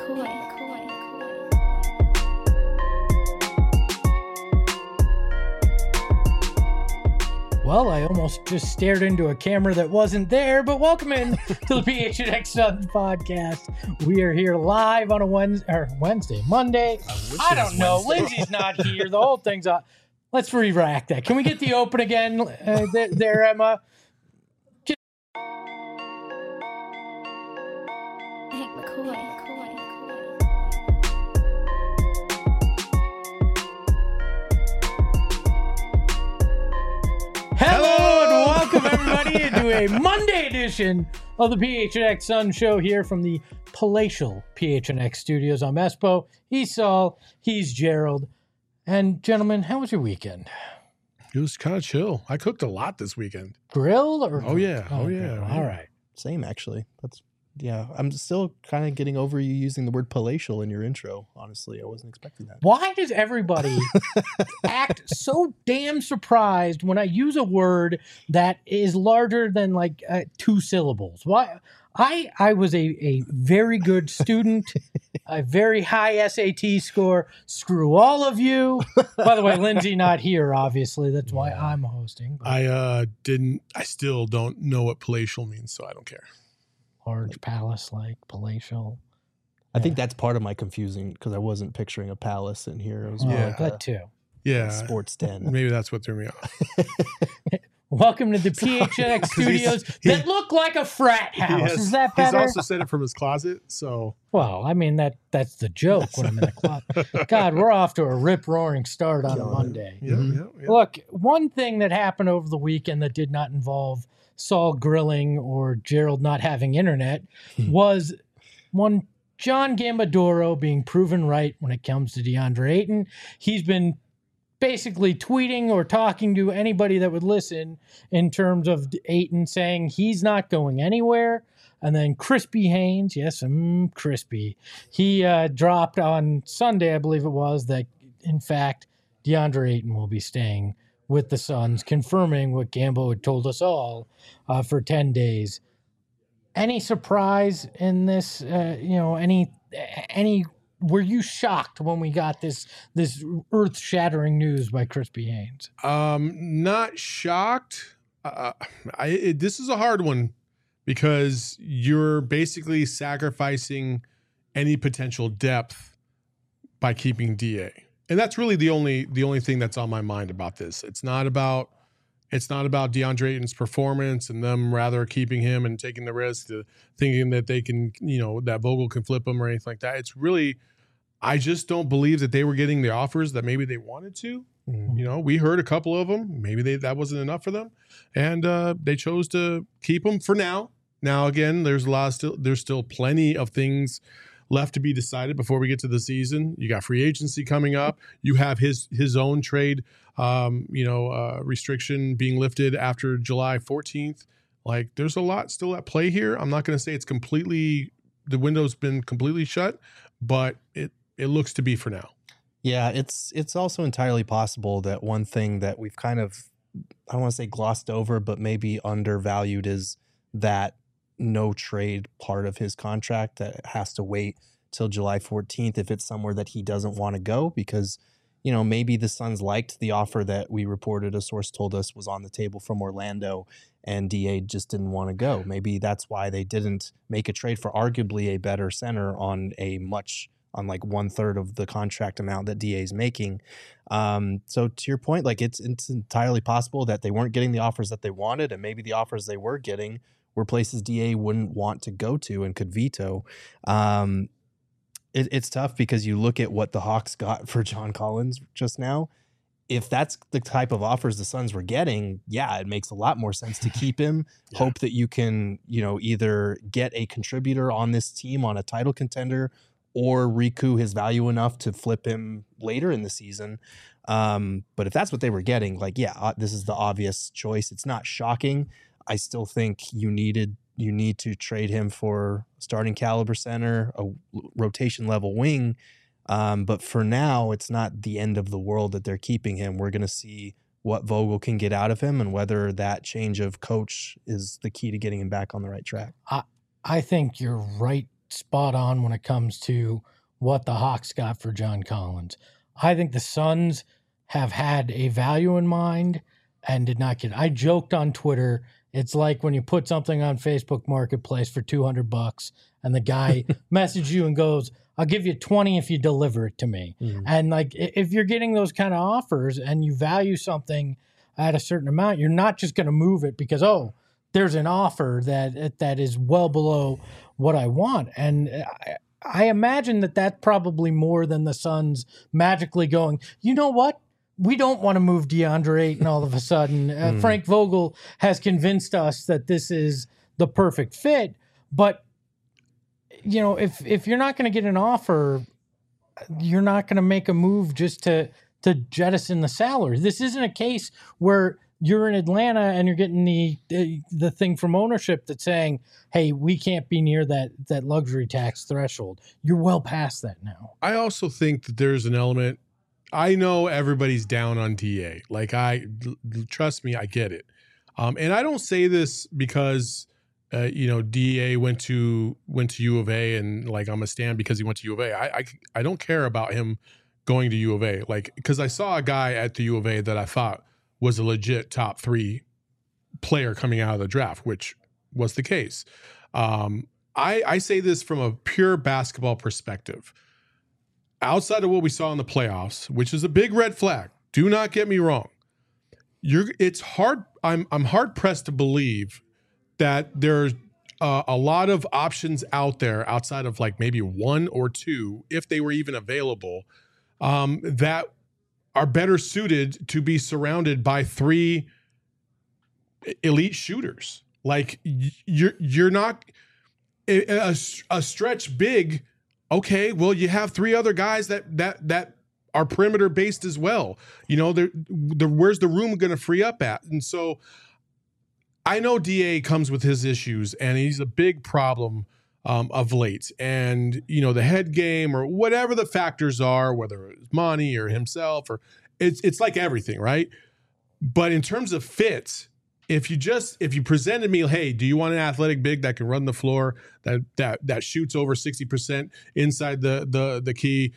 Well, I almost just stared into a camera that wasn't there, but welcome in to the PHNX Suns podcast. We are here live on a Monday. I don't know. Lindsay's not here. The whole thing's up. Let's re-rack that. Can we get the open again there, Emma? Hank McCoy. Hello and welcome everybody into a Monday edition of the PHNX Sun Show here from the palatial PHNX studios. I'm Espo, he's Saul, he's Gerald. And gentlemen, how was your weekend? It was kind of chill. I cooked a lot this weekend. Grilled or? Oh yeah. All right. Same, actually. I'm still kind of getting over you using the word palatial in your intro. Honestly, I wasn't expecting that. Why does everybody act so damn surprised when I use a word that is larger than like 2 syllables? Why? I was a very good student, a very high SAT score. Screw all of you. By the way, Lindsay not here, obviously. That's why I'm hosting. I still don't know what palatial means, so I don't care. Large palace, like palatial. I think that's part of my confusing because I wasn't picturing a palace in here. It was more like that too. Yeah. a sports den. Maybe that's what threw me off. Welcome to the PHNX studios that look like a frat house. Is that better? He's also said it from his closet, so. Well, I mean, that's the joke when I'm in the closet. God, we're off to a rip-roaring start on a Monday. Yeah. Look, one thing that happened over the weekend that did not involve Saul grilling or Gerald not having internet was one John Gambadoro being proven right when it comes to DeAndre Ayton. He's been basically tweeting or talking to anybody that would listen in terms of Ayton saying he's not going anywhere. And then Crispy Haynes, yes, Crispy, he dropped on Sunday, I believe it was, that in fact DeAndre Ayton will be staying with the Suns, confirming what Gambo had told us all for 10 days. Any surprise in this? Any? Were you shocked when we got this earth-shattering news by Crispy Haynes? Not shocked. This is a hard one because you're basically sacrificing any potential depth by keeping DA. And that's really the only thing that's on my mind about this. It's not about DeAndre Ayton's performance and them rather keeping him and taking the risk, thinking that they can, that Vogel can flip him or anything like that. It's really, I just don't believe that they were getting the offers that maybe they wanted to. Mm-hmm. We heard a couple of them. Maybe that wasn't enough for them, and they chose to keep him for now. Now again, there's still plenty of things left to be decided before we get to the season. You got free agency coming up. You have his own trade, restriction being lifted after July 14th. Like, there's a lot still at play here. I'm not going to say the window's been completely shut, but it looks to be for now. Yeah, it's also entirely possible that one thing that we've kind of, I don't want to say glossed over, but maybe undervalued is that no trade part of his contract that has to wait till July 14th if it's somewhere that he doesn't want to go, because maybe the Suns liked the offer that we reported, a source told us was on the table from Orlando, and DA just didn't want to go. Maybe that's why they didn't make a trade for arguably a better center on like 1/3 of the contract amount that DA is making. So to your point, like it's entirely possible that they weren't getting the offers that they wanted, and maybe the offers they were getting were places DA wouldn't want to go to and could veto. It's tough because you look at what the Hawks got for John Collins just now. If that's the type of offers the Suns were getting, yeah, it makes a lot more sense to keep him. Yeah. Hope that you can, either get a contributor on this team on a title contender or recoup his value enough to flip him later in the season. But if that's what they were getting, this is the obvious choice. It's not shocking. I still think you need to trade him for starting caliber center, a rotation level wing. But for now, it's not the end of the world that they're keeping him. We're going to see what Vogel can get out of him and whether that change of coach is the key to getting him back on the right track. I think you're right spot on when it comes to what the Hawks got for John Collins. I think the Suns have had a value in mind and did not get. I joked on Twitter, it's like when you put something on Facebook Marketplace for $200 and the guy messages you and goes, I'll give you 20 if you deliver it to me. Mm-hmm. And like, if you're getting those kind of offers and you value something at a certain amount, you're not just going to move it because, oh, there's an offer that is well below what I want. And I imagine that that's probably more than the Suns magically going, you know what? We don't want to move DeAndre Ayton all of a sudden. Frank Vogel has convinced us that this is the perfect fit. But, you know, if you're not going to get an offer, you're not going to make a move just to jettison the salary. This isn't a case where you're in Atlanta and you're getting the thing from ownership that's saying, hey, we can't be near that luxury tax threshold. You're well past that now. I also think that there's an element. I know everybody's down on DA. Like, trust me, I get it. And I don't say this because, DA went to U of A and like I'm a stan because he went to U of A. I don't care about him going to U of A. Like, because I saw a guy at the U of A that I thought was a legit top 3 player coming out of the draft, which was the case. I say this from a pure basketball perspective. Outside of what we saw in the playoffs, which is a big red flag, do not get me wrong. It's hard. I'm hard pressed to believe that there's a lot of options out there outside of like maybe 1 or 2, if they were even available, that are better suited to be surrounded by 3 elite shooters. Like you're not a stretch big. Okay, well, you have 3 other guys that are perimeter based as well. You know, where's the room going to free up at? And so I know DA comes with his issues, and he's a big problem of late. And, you know, the head game or whatever the factors are, whether it's Monty or himself, or it's like everything, right? But in terms of fit, if you presented me, hey, do you want an athletic big that can run the floor, that shoots over 60% inside the key,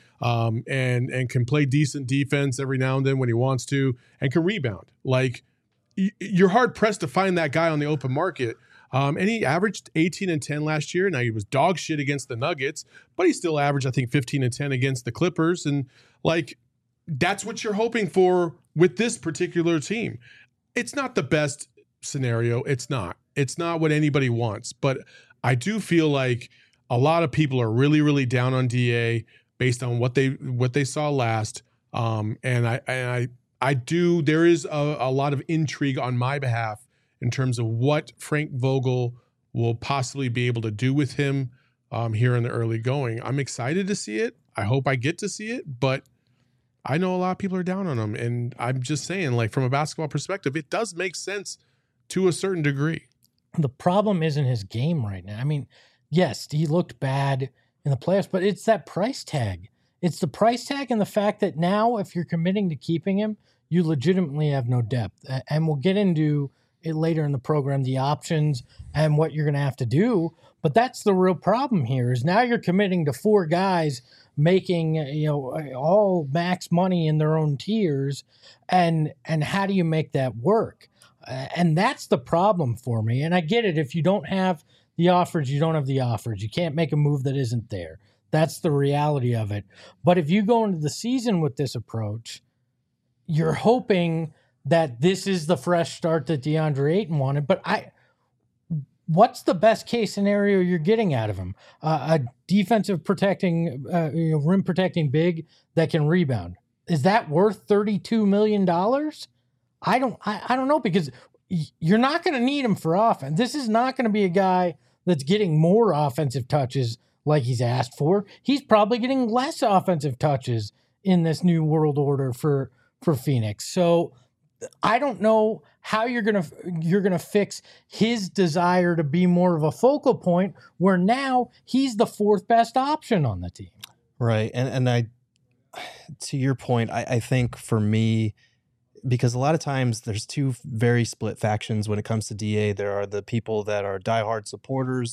and can play decent defense every now and then when he wants to, and can rebound? Like, you're hard pressed to find that guy on the open market. And he averaged 18 and 10 last year. Now, he was dog shit against the Nuggets, but he still averaged, I think, 15 and 10 against the Clippers. And like, that's what you're hoping for with this particular team. It's not the best scenario. It's not what anybody wants, but I do feel like a lot of people are really, really down on DA based on what they saw last. And I do, there is a lot of intrigue on my behalf in terms of what Frank Vogel will possibly be able to do with him here in the early going. I'm excited to see it. I hope I get to see it, but I know a lot of people are down on him. And I'm just saying, like, from a basketball perspective, it does make sense to a certain degree. The problem isn't his game right now. I mean, yes, he looked bad in the playoffs, but it's that price tag. It's the price tag and the fact that now if you're committing to keeping him, you legitimately have no depth. And we'll get into it later in the program, the options and what you're going to have to do. But that's the real problem here is now you're committing to 4 guys making, all max money in their own tiers. And how do you make that work? And that's the problem for me. And I get it. If you don't have the offers, you don't have the offers. You can't make a move that isn't there. That's the reality of it. But if you go into the season with this approach, you're hoping that this is the fresh start that DeAndre Ayton wanted. But what's the best case scenario you're getting out of him? A defensive protecting, rim protecting big that can rebound. Is that worth $32 million? I don't know, because you're not going to need him for offense. This is not going to be a guy that's getting more offensive touches like he's asked for. He's probably getting less offensive touches in this new world order for Phoenix. So I don't know how you're gonna fix his desire to be more of a focal point where now he's the 4th best option on the team. Right. And I, to your point, I think for me, because a lot of times there's 2 very split factions when it comes to DA. There are the people that are diehard supporters,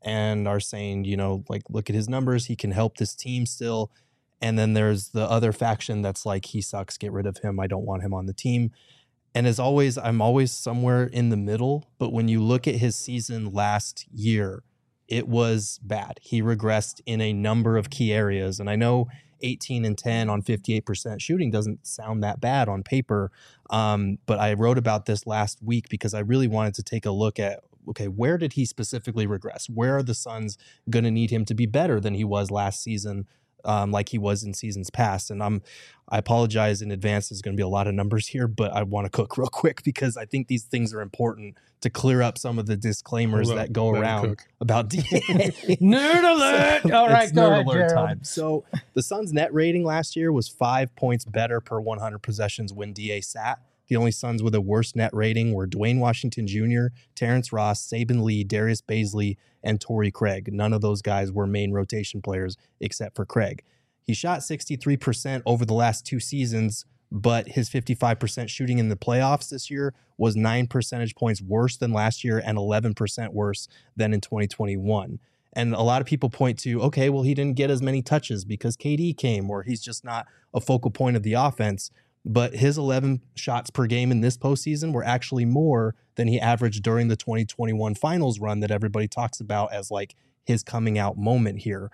and are saying, like, look at his numbers. He can help this team still. And then there's the other faction that's like, he sucks. Get rid of him. I don't want him on the team. And as always, I'm always somewhere in the middle. But when you look at his season last year, it was bad. He regressed in a number of key areas. And I know 18 and 10 on 58% shooting doesn't sound that bad on paper. But I wrote about this last week because I really wanted to take a look at, okay, where did he specifically regress? Where are the Suns going to need him to be better than he was last season, like he was in seasons past? And I apologize in advance. There's going to be a lot of numbers here, but I want to cook real quick because I think these things are important to clear up some of the disclaimers that go around about DA. Nerd alert! All right, go ahead, Gerald. Time. So the Suns' net rating last year was 5 points better per 100 possessions when DA sat. The only Suns with a worse net rating were Dwayne Washington Jr., Terrence Ross, Saban Lee, Darius Baisley, and Torrey Craig. None of those guys were main rotation players except for Craig. He shot 63% over the last 2 seasons, but his 55% shooting in the playoffs this year was 9 percentage points worse than last year and 11% worse than in 2021. And a lot of people point to, okay, well, he didn't get as many touches because KD came, or he's just not a focal point of the offense. But his 11 shots per game in this postseason were actually more than he averaged during the 2021 finals run that everybody talks about as like his coming out moment here.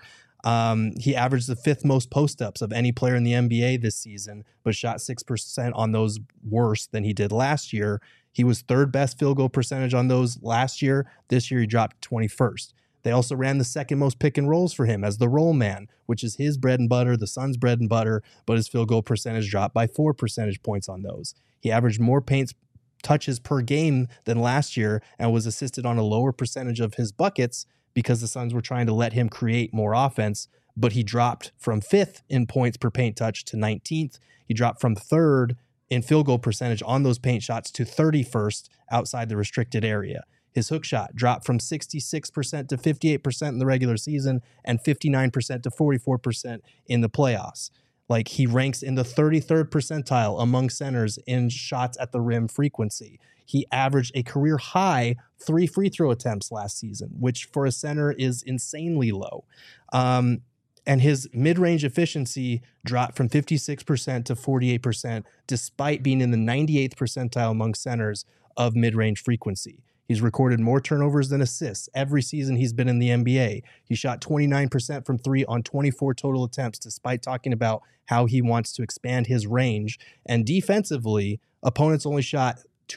He averaged the 5th most post-ups of any player in the NBA this season, but shot 6% on those worse than he did last year. He was 3rd best field goal percentage on those last year. This year he dropped 21st. They also ran the 2nd most pick and rolls for him as the roll man, which is his bread and butter, the Suns' bread and butter, but his field goal percentage dropped by 4 percentage points on those. He averaged more paint touches per game than last year and was assisted on a lower percentage of his buckets because the Suns were trying to let him create more offense, but he dropped from 5th in points per paint touch to 19th. He dropped from 3rd in field goal percentage on those paint shots to 31st outside the restricted area. His hook shot dropped from 66% to 58% in the regular season and 59% to 44% in the playoffs. Like, he ranks in the 33rd percentile among centers in shots at the rim frequency. He averaged a career high 3 free throw attempts last season, which for a center is insanely low. And his mid-range efficiency dropped from 56% to 48%, despite being in the 98th percentile among centers of mid-range frequency. He's recorded more turnovers than assists every season he's been in the NBA. He shot 29% from 3 on 24 total attempts, despite talking about how he wants to expand his range. And defensively, opponents only shot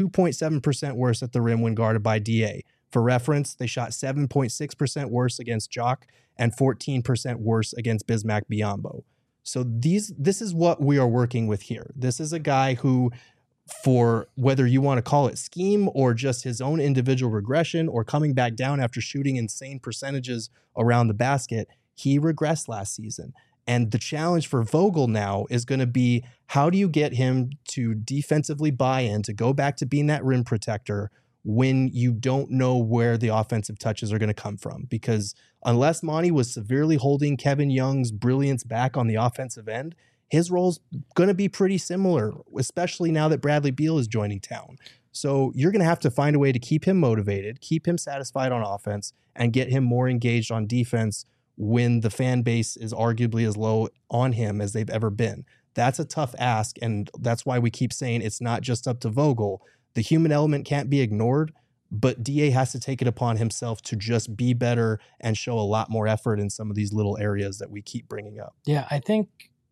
2.7% worse at the rim when guarded by DA. For reference, they shot 7.6% worse against Jock and 14% worse against Bismack Biyombo. So this is what we are working with here. This is a guy who, for whether you want to call it scheme or just his own individual regression or coming back down after shooting insane percentages around the basket, he regressed last season. And the challenge for Vogel now is going to be, how do you get him to defensively buy in, to go back to being that rim protector when you don't know where the offensive touches are going to come from? Because unless Monty was severely holding Kevin Young's brilliance back on the offensive end, his role's going to be pretty similar, especially now that Bradley Beal is joining town. So you're going to have to find a way to keep him motivated, keep him satisfied on offense, and get him more engaged on defense when the fan base is arguably as low on him as they've ever been. That's a tough ask, and that's why we keep saying it's not just up to Vogel. The human element can't be ignored, but DA has to take it upon himself to just be better and show a lot more effort in some of these little areas that we keep bringing up. Yeah, I think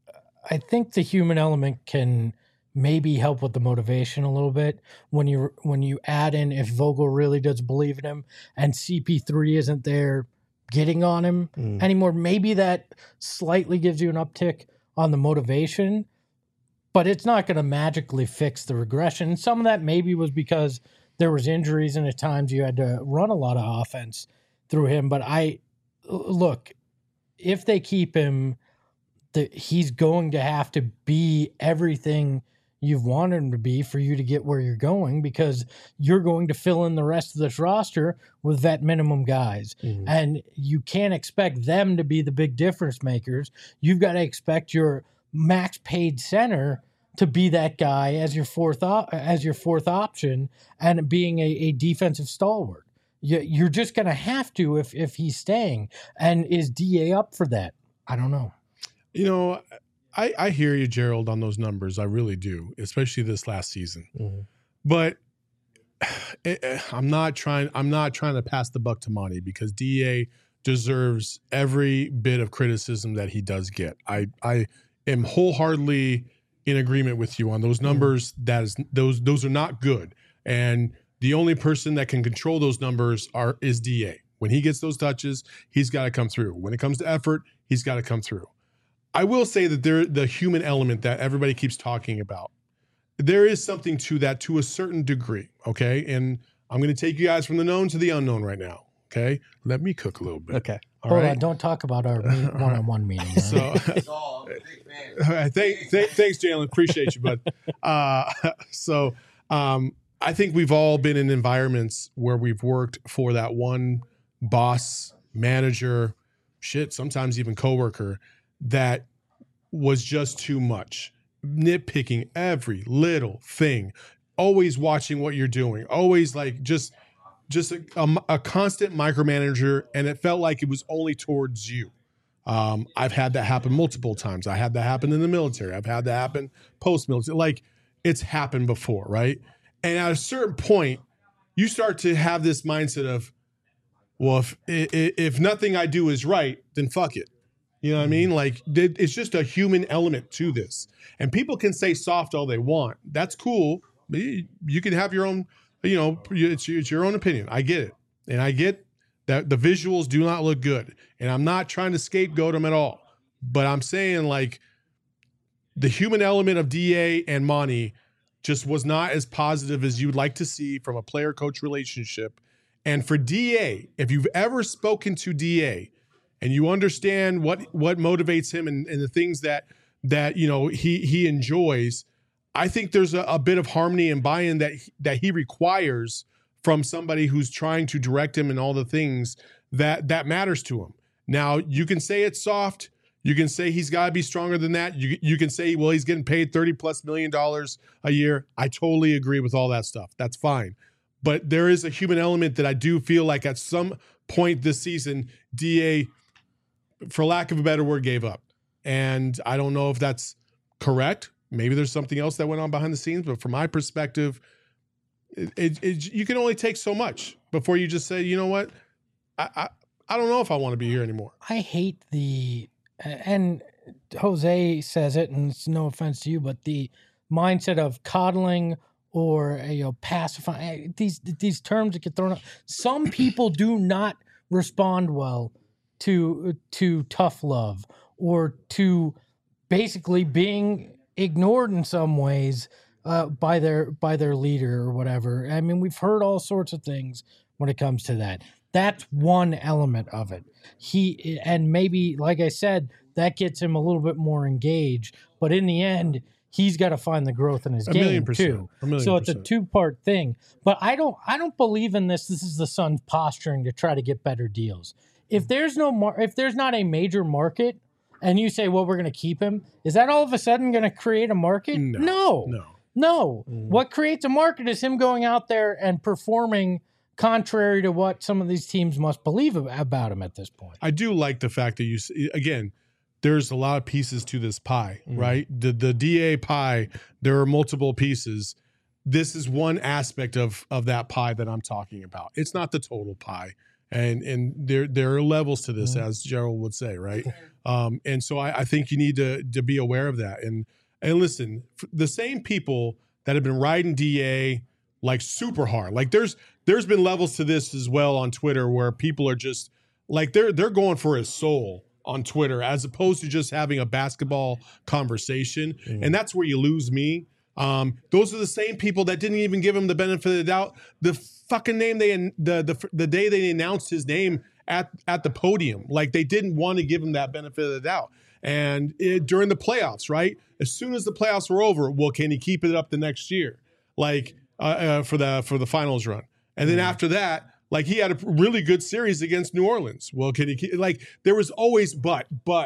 the human element can maybe help with the motivation a little bit when you add in, if Vogel really does believe in him and CP3 isn't there getting on him anymore, maybe that slightly gives you an uptick on the motivation, but it's not going to magically fix the regression. Some of that maybe was because there was injuries and at times you had to run a lot of offense through him. But look, if they keep him, he's going to have to be everything you've wanted him to be for you to get where you're going, because you're going to fill in the rest of this roster with vet minimum guys. And you can't expect them to be the big difference makers. You've got to expect your max paid center to be that guy as your fourth option and being a defensive stalwart. You're just going to have to if he's staying. And is DA up for that? I don't know. You know, I hear you, Gerald, on those numbers. I really do, especially this last season. Mm-hmm. But I'm not trying to pass the buck to Monty, because DA deserves every bit of criticism that he does get. I am wholeheartedly in agreement with you on those numbers. Those are not good. And the only person that can control those numbers is DA. When he gets those touches, he's got to come through. When it comes to effort, he's got to come through. I will say that the human element that everybody keeps talking about, there is something to that to a certain degree, okay? And I'm going to take you guys from the known to the unknown right now, okay? Let me cook a little bit. Okay. All Hold right? on, don't talk about our one-on-one meeting. So, thanks, Jalen. Appreciate you, bud. I think we've all been in environments where we've worked for that one boss, manager, sometimes even coworker that was just too much. Nitpicking every little thing, always watching what you're doing, always like just a constant micromanager, and it felt like it was only towards you. I've had that happen multiple times. I had that happen in the military. I've had that happen post-military. Like, it's happened before, right? And at a certain point, you start to have this mindset of, well, if nothing I do is right, then fuck it. You know what I mean? Like, it's just a human element to this. And people can say soft all they want. That's cool. You can have your own, it's your own opinion. I get it. And I get that the visuals do not look good. And I'm not trying to scapegoat them at all. But I'm saying, like, the human element of DA and Monty just was not as positive as you would like to see from a player-coach relationship. And for DA, if you've ever spoken to DA and you understand what motivates him and the things that he enjoys, I think there's a bit of harmony and buy-in that he requires from somebody who's trying to direct him and all the things that matters to him. Now, you can say it's soft. You can say he's got to be stronger than that. You can say, well, he's getting paid $30+ million a year. I totally agree with all that stuff. That's fine. But there is a human element that I do feel like at some point this season, DA, for lack of a better word, gave up. And I don't know if that's correct. Maybe there's something else that went on behind the scenes. But from my perspective, you can only take so much before you just say, you know what? I don't know if I want to be here anymore. I hate and Jose says it, and it's no offense to you, but the mindset of coddling or pacifying, these terms that get thrown out. Some people do not respond well to tough love or to basically being ignored in some ways by their leader or whatever. I mean, we've heard all sorts of things when it comes to that. That's one element of it. And maybe, like I said, that gets him a little bit more engaged. But in the end, he's got to find the growth in his game too. So it's a two-part thing. But I don't believe in this. This is the Suns posturing to try to get better deals. If there's not a major market, and you say, well, we're going to keep him, is that all of a sudden going to create a market? No. What creates a market is him going out there and performing contrary to what some of these teams must believe about him at this point. I do like the fact that again, there's a lot of pieces to this pie, right? The DA pie, there are multiple pieces. This is one aspect of that pie that I'm talking about. It's not the total pie. And there are levels to this, as Gerald would say, right? And so I think you need to be aware of that. And listen, the same people that have been riding DA like super hard, like there's been levels to this as well on Twitter where people are just like they're going for his soul on Twitter as opposed to just having a basketball conversation. And that's where you lose me. Those are the same people that didn't even give him the benefit of the doubt. The fucking name the day they announced his name at the podium, like they didn't want to give him that benefit of the doubt. And during the playoffs, right? As soon as the playoffs were over, well, can he keep it up the next year? Like for the finals run. And then after that, like he had a really good series against New Orleans. Well, can he keep, like there was always but.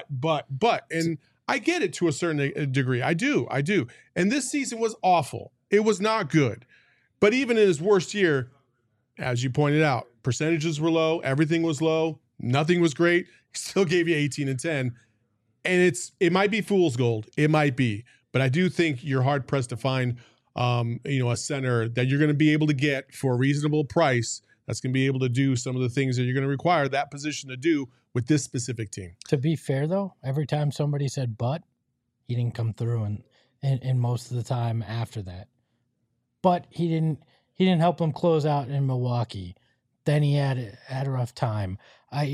And I get it to a certain degree. I do. And this season was awful. It was not good. But even in his worst year, as you pointed out, percentages were low, everything was low, nothing was great. He still gave you 18 and 10. And it might be fool's gold. It might be. But I do think you're hard pressed to find a center that you're going to be able to get for a reasonable price that's going to be able to do some of the things that you're going to require that position to do with this specific team. To be fair, though, every time somebody said but, he didn't come through and most of the time after that. But he didn't help them close out in Milwaukee. Then he had a rough time. But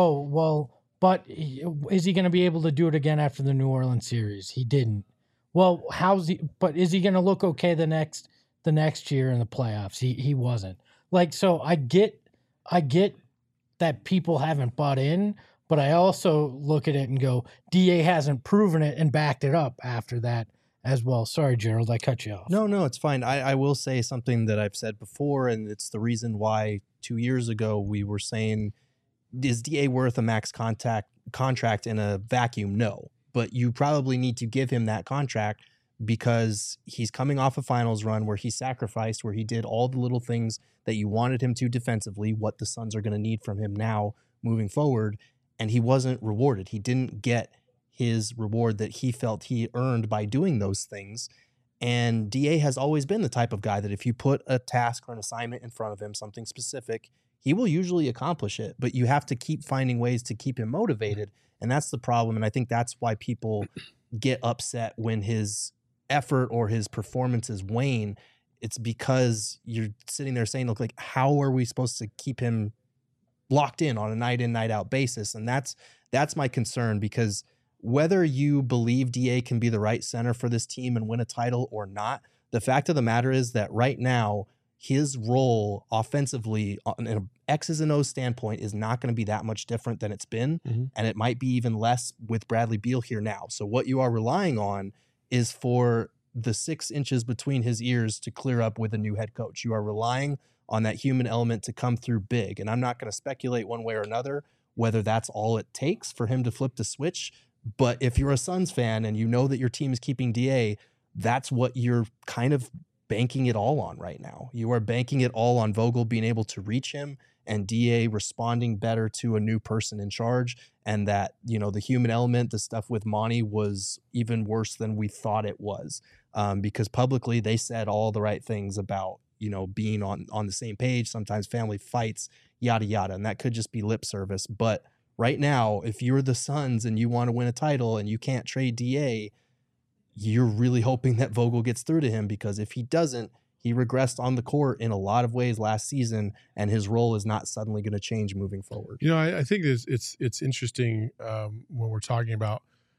is he going to be able to do it again after the New Orleans series? He didn't. Well, is he going to look okay the next year in the playoffs? He wasn't. Like, so I get that people haven't bought in, but I also look at it and go, DA hasn't proven it and backed it up after that as well. Sorry, Gerald, I cut you off. No, it's fine. I will say something that I've said before, and it's the reason why 2 years ago we were saying, is DA worth a max contract in a vacuum? No. But you probably need to give him that contract because he's coming off a finals run where he sacrificed, where he did all the little things that you wanted him to defensively, what the Suns are going to need from him now moving forward, and he wasn't rewarded. He didn't get his reward that he felt he earned by doing those things. And DA has always been the type of guy that if you put a task or an assignment in front of him, something specific, he will usually accomplish it, but you have to keep finding ways to keep him motivated. And that's the problem. And I think that's why people get upset when his effort or his performances wane. It's because you're sitting there saying, look, like, how are we supposed to keep him locked in on a night in, night out basis? And that's my concern, because whether you believe DA can be the right center for this team and win a title or not, the fact of the matter is that right now, his role offensively on an X's and O's standpoint is not going to be that much different than it's been. Mm-hmm. And it might be even less with Bradley Beal here now. So what you are relying on is for the 6 inches between his ears to clear up with a new head coach. You are relying on that human element to come through big. And I'm not going to speculate one way or another whether that's all it takes for him to flip the switch. But if you're a Suns fan and you know that your team is keeping DA, that's what you're kind of banking it all on right now. You are banking it all on Vogel being able to reach him and DA responding better to a new person in charge. And that, the human element, the stuff with Monty was even worse than we thought it was, because publicly they said all the right things about, being on the same page, sometimes family fights, yada, yada. And that could just be lip service. But right now, if you're the Suns and you want to win a title and you can't trade DA, you're really hoping that Vogel gets through to him, because if he doesn't, he regressed on the court in a lot of ways last season, and his role is not suddenly going to change moving forward. I think it's interesting when we're talking about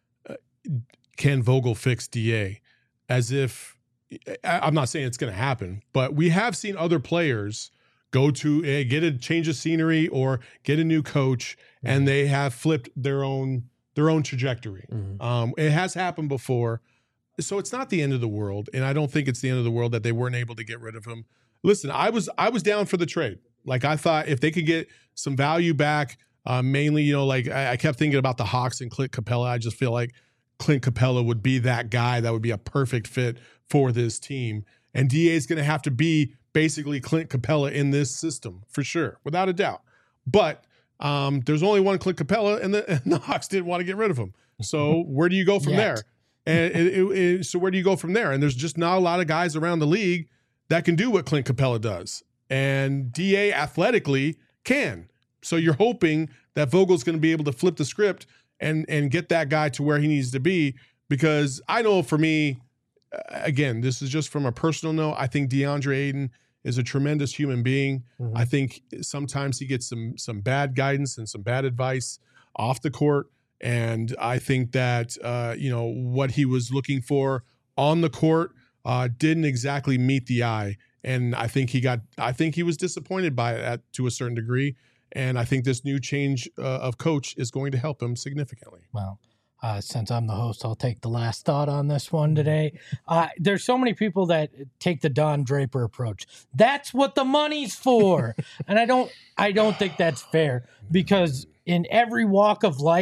can Vogel fix DA, as if I'm not saying it's going to happen, but we have seen other players go to get a change of scenery or get a new coach, and they have flipped their own trajectory. Mm-hmm. It has happened before. So it's not the end of the world, and I don't think it's the end of the world that they weren't able to get rid of him. Listen, I was down for the trade. Like, I thought if they could get some value back, mainly, I kept thinking about the Hawks and Clint Capella. I just feel like Clint Capella would be that guy that would be a perfect fit for this team. And DA is going to have to be basically Clint Capella in this system for sure, without a doubt. But there's only one Clint Capella, and the Hawks didn't want to get rid of him. So where do you go from there? And so where do you go from there? And there's just not a lot of guys around the league that can do what Clint Capella does. And DA athletically can. So you're hoping that Vogel's going to be able to flip the script and get that guy to where he needs to be. Because I know for me, again, this is just from a personal note, I think DeAndre Ayton is a tremendous human being. Mm-hmm. I think sometimes he gets some bad guidance and some bad advice off the court. And I think that, what he was looking for on the court didn't exactly meet the eye. And I think he was disappointed by it to a certain degree. And I think this new change of coach is going to help him significantly. Well, since I'm the host, I'll take the last thought on this one today. There's so many people that take the Don Draper approach. That's what the money's for. And I don't think that's fair, because in every walk of life,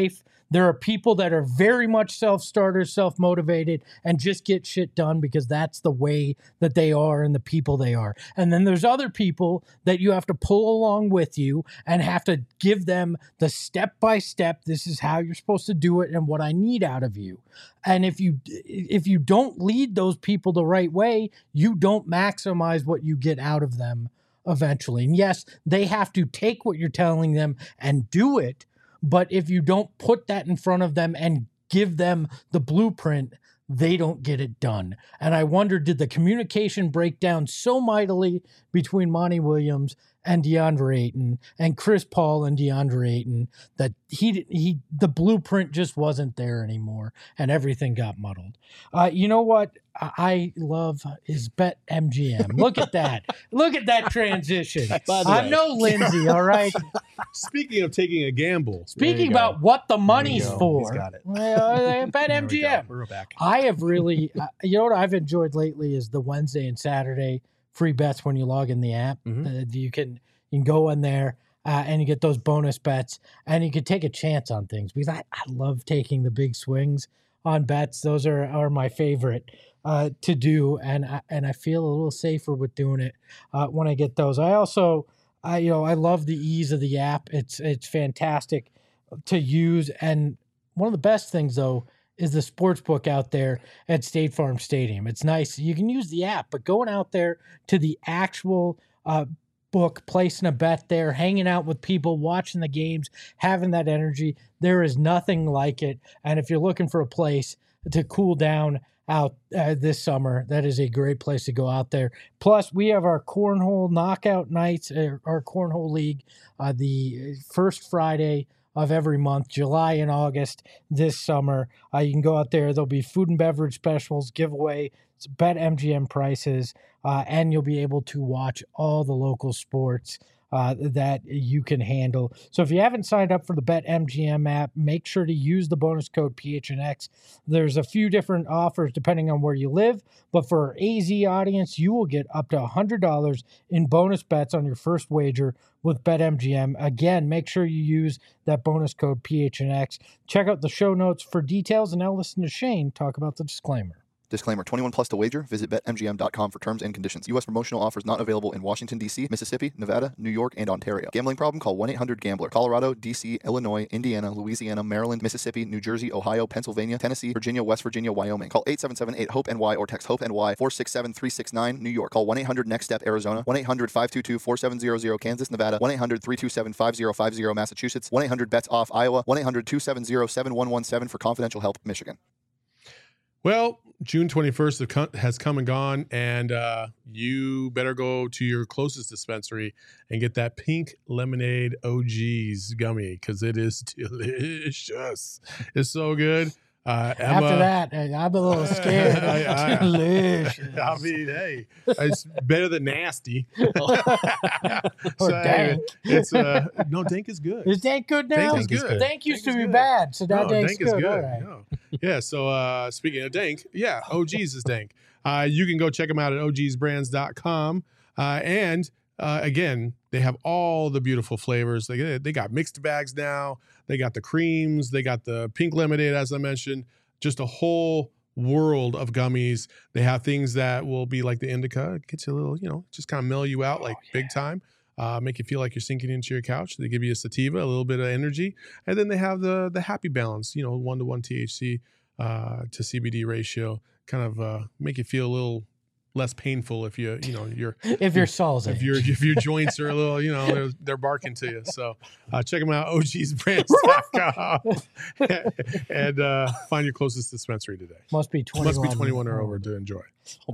There are people that are very much self-starters, self-motivated, and just get shit done because that's the way that they are and the people they are. And then there's other people that you have to pull along with you and have to give them the step-by-step, this is how you're supposed to do it and what I need out of you. And if you don't lead those people the right way, you don't maximize what you get out of them eventually. And yes, they have to take what you're telling them and do it. But if you don't put that in front of them and give them the blueprint, they don't get it done. And I wonder, did the communication break down so mightily between Monty Williams and DeAndre Ayton and Chris Paul and DeAndre Ayton that the blueprint just wasn't there anymore and everything got muddled. You know what I love is BetMGM. Look at that. Look at that transition. I'm no Lindsay, all right? Speaking of taking a gamble. Speaking about what the money's for. He's got it. BetMGM. We're back. I have really, you know what I've enjoyed lately is the Wednesday and Saturday free bets when you log in the app. You can go in there and you get those bonus bets and you can take a chance on things because I love taking the big swings on bets. Those are my favorite to do, and I feel a little safer with doing it when I get those. I also, I love the ease of the app. It's fantastic to use, and one of the best things though is the sports book out there at State Farm Stadium. It's nice. You can use the app, but going out there to the actual book, placing a bet there, hanging out with people, watching the games, having that energy, there is nothing like it. And if you're looking for a place to cool down out this summer, that is a great place to go out there. Plus, we have our cornhole knockout nights, our cornhole league, the first Friday of every month, July and August this summer. You can go out there. There'll be food and beverage specials, giveaway, BetMGM prices, and you'll be able to watch all the local sports that you can handle. So if you haven't signed up for the BetMGM app, make sure to use the bonus code PHNX. There's a few different offers depending on where you live, but for our AZ audience, you will get up to $100 in bonus bets on your first wager with BetMGM. Again, make sure you use that bonus code PHNX. Check out the show notes for details, and now listen to Shane talk about the disclaimer. Disclaimer, 21 plus to wager. Visit BetMGM.com for terms and conditions. U.S. promotional offers not available in Washington, D.C., Mississippi, Nevada, New York, and Ontario. Gambling problem? Call 1-800-GAMBLER. Colorado, D.C., Illinois, Indiana, Louisiana, Maryland, Mississippi, New Jersey, Ohio, Pennsylvania, Tennessee, Virginia, West Virginia, Wyoming. Call 877-8-HOPE-NY or text HOPE-NY 467-369, New York. Call 1-800-NEXT-STEP, Arizona. 1-800-522-4700, Kansas, Nevada. 1-800-327-5050, Massachusetts. 1-800-BETS-OFF, Iowa. 1-800-270-7117 for confidential help, Michigan. Well, June 21st has come and gone, and you better go to your closest dispensary and get that pink lemonade OG's gummy because it is delicious. It's so good. Emma, After that, I'm a little scared. Delicious. I mean, hey, it's better than nasty. Or dank. It's no, dank is good. Is Dank good now? Dank is good. Dank used Dank to is be good. bad, so now No, Dank's dank is good. good. All right. No. Yeah. So speaking of dank, yeah, OG's is dank. You can go check them out at ogsbrands.com. And again, they have all the beautiful flavors. They got mixed bags now. They got the creams. They got the pink lemonade, as I mentioned. Just a whole world of gummies. They have things that will be like the indica. It gets you a little, just kind of mellow you out big time. Make you feel like you're sinking into your couch. They give you a sativa, a little bit of energy. And then they have the happy balance, 1-to-1 THC to CBD ratio. Kind of make you feel a little less painful if you're If your soul's if your joints are a little, they're barking to you. So check them out, ogsbrands.com and find your closest dispensary today. Must be 21. Must be 21 or over to enjoy.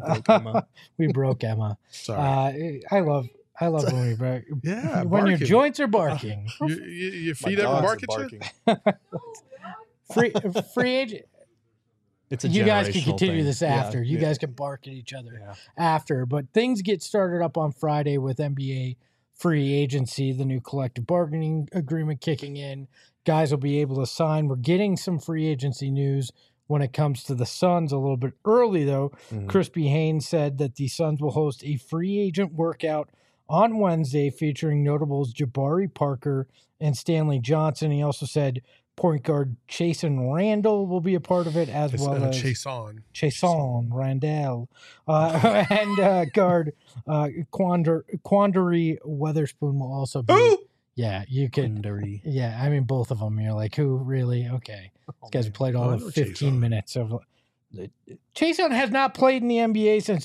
We broke Emma. Sorry. I love when we break. Yeah, when your barking. joints are barking. Your feet ever bark at you? Free agent. It's a you guys can generational continue thing. this after. You guys can bark at each other after. But things get started up on Friday with NBA free agency, the new collective bargaining agreement kicking in. Guys will be able to sign. We're getting some free agency news when it comes to the Suns a little bit early, though. Crispy Haynes said that the Suns will host a free agent workout on Wednesday featuring notables Jabari Parker and Stanley Johnson. He also said Point guard Chasen Randall will be a part of it, as It's well as Chason. Randall, and guard Quandary Weatherspoon will also be. Who? Yeah, you could. Quandary. Yeah, I mean both of them. You're like, who really? Okay, this guy's played all I of know 15 Chason. minutes of. Chason has not played in the NBA since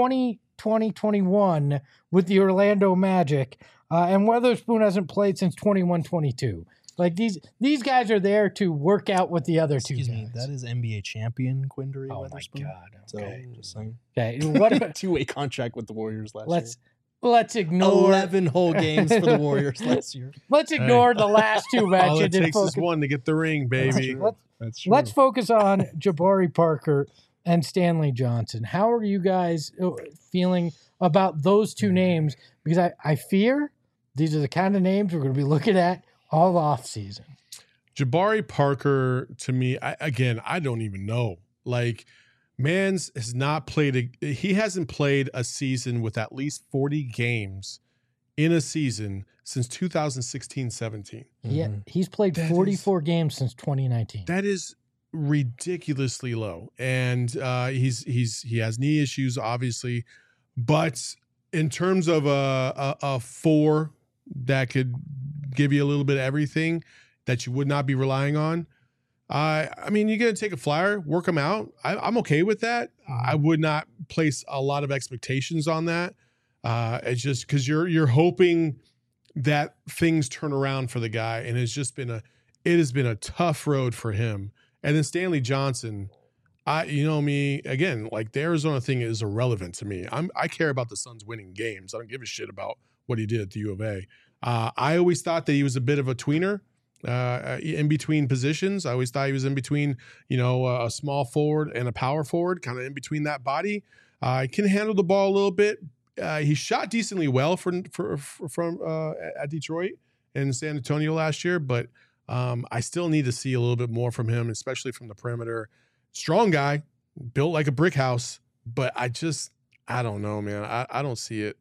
2021 with the Orlando Magic, and Weatherspoon hasn't played since 21-22. Like these guys are there to work out with the other two Excuse guys. me, that is NBA champion Quindary Oh my Weatherspoon. God, So okay. just saying. Okay, what about, Two-way contract with the Warriors last year. let's ignore 11 whole games for the Warriors last year. let's ignore the last two All matches it and takes is focus. one to get the ring, baby. That's true. Let's focus on Jabari Parker and Stanley Johnson. How are you guys feeling about those two names? Because I fear these are the kind of names we're going to be looking at all off season. Jabari Parker, to me, I don't even know. Like, Mans has not played he hasn't played a season with at least 40 games in a season since 2016-17. Yeah, Mhm. he's played That 44 games since 2019. That is ridiculously low, and he has knee issues, obviously, but in terms of a four that could give you a little bit of everything that you would not be relying on. I mean, you're going to take a flyer, work them out. I'm okay with that. I would not place a lot of expectations on that. It's just because you're hoping that things turn around for the guy, and it has been a tough road for him. And then Stanley Johnson, you know me, again, like the Arizona thing is irrelevant to me. I care about the Suns winning games. I don't give a shit about what he did at the U of A. I always thought that he was a bit of a tweener. In between positions. I always thought he was in between, a small forward and a power forward, kind of in between that body. He can handle the ball a little bit. He shot decently well from at Detroit and San Antonio last year, but I still need to see a little bit more from him, especially from the perimeter. Strong guy, built like a brick house, but I don't know, man. I don't see it.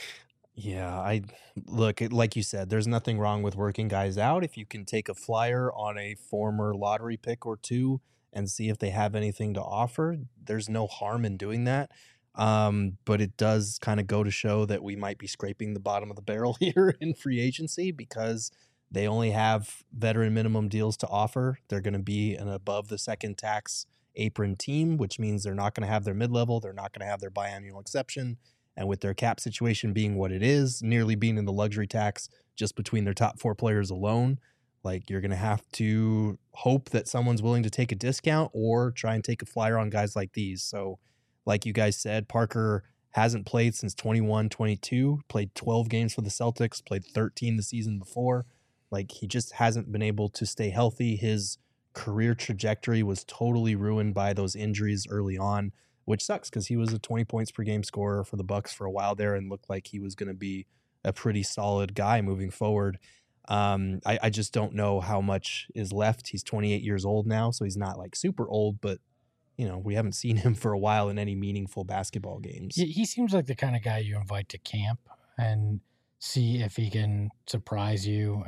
Yeah, like you said, there's nothing wrong with working guys out. If you can take a flyer on a former lottery pick or two and see if they have anything to offer, there's no harm in doing that. But it does kind of go to show that we might be scraping the bottom of the barrel here in free agency because they only have veteran minimum deals to offer. They're going to be an above the second tax apron team, which means they're not going to have their mid-level. They're not going to have their biannual exception. And with their cap situation being what it is, nearly being in the luxury tax just between their top four players alone, like you're going to have to hope that someone's willing to take a discount or try and take a flyer on guys like these. So like you guys said, Parker hasn't played since 21-22, played 12 games for the Celtics, played 13 the season before. Like he just hasn't been able to stay healthy. His career trajectory was totally ruined by those injuries early on, which sucks because he was a 20 points per game scorer for the Bucks for a while there and looked like he was going to be a pretty solid guy moving forward. I just don't know how much is left. He's 28 years old now, so he's not like super old, but we haven't seen him for a while in any meaningful basketball games. He seems like the kind of guy you invite to camp and see if he can surprise you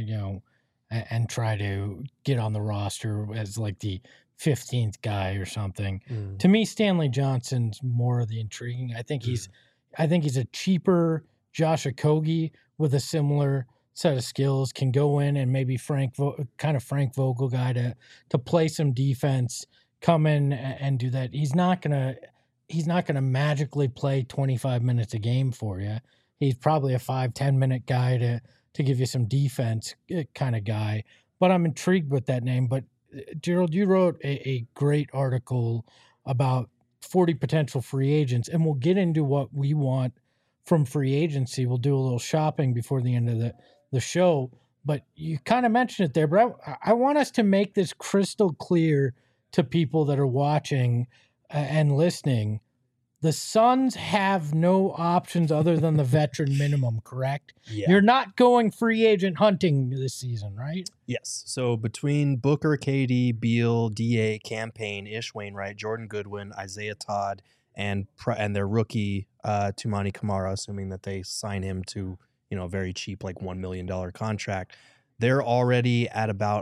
and try to get on the roster as like the 15th guy or something. To me, Stanley Johnson's more of the intriguing. I think he's a cheaper Josh Okogie with a similar set of skills, can go in and maybe Frank Vogel guy to play some defense, come in and do that. He's not gonna magically play 25 minutes a game for you. He's probably a 5-10 minute guy to give you some defense kind of guy. But I'm intrigued with that name. But Gerald, you wrote a great article about 40 potential free agents, and we'll get into what we want from free agency. We'll do a little shopping before the end of the show, but you kind of mentioned it there. But I want us to make this crystal clear to people that are watching and listening. The Suns have no options other than the veteran minimum, correct? Yeah. You're not going free agent hunting this season, right? Yes. So between Booker, KD, Beal, DA, Campaign, Ish Wainwright, Jordan Goodwin, Isaiah Todd, and their rookie Tumani Kamara, assuming that they sign him to a very cheap like $1 million contract, They're already at about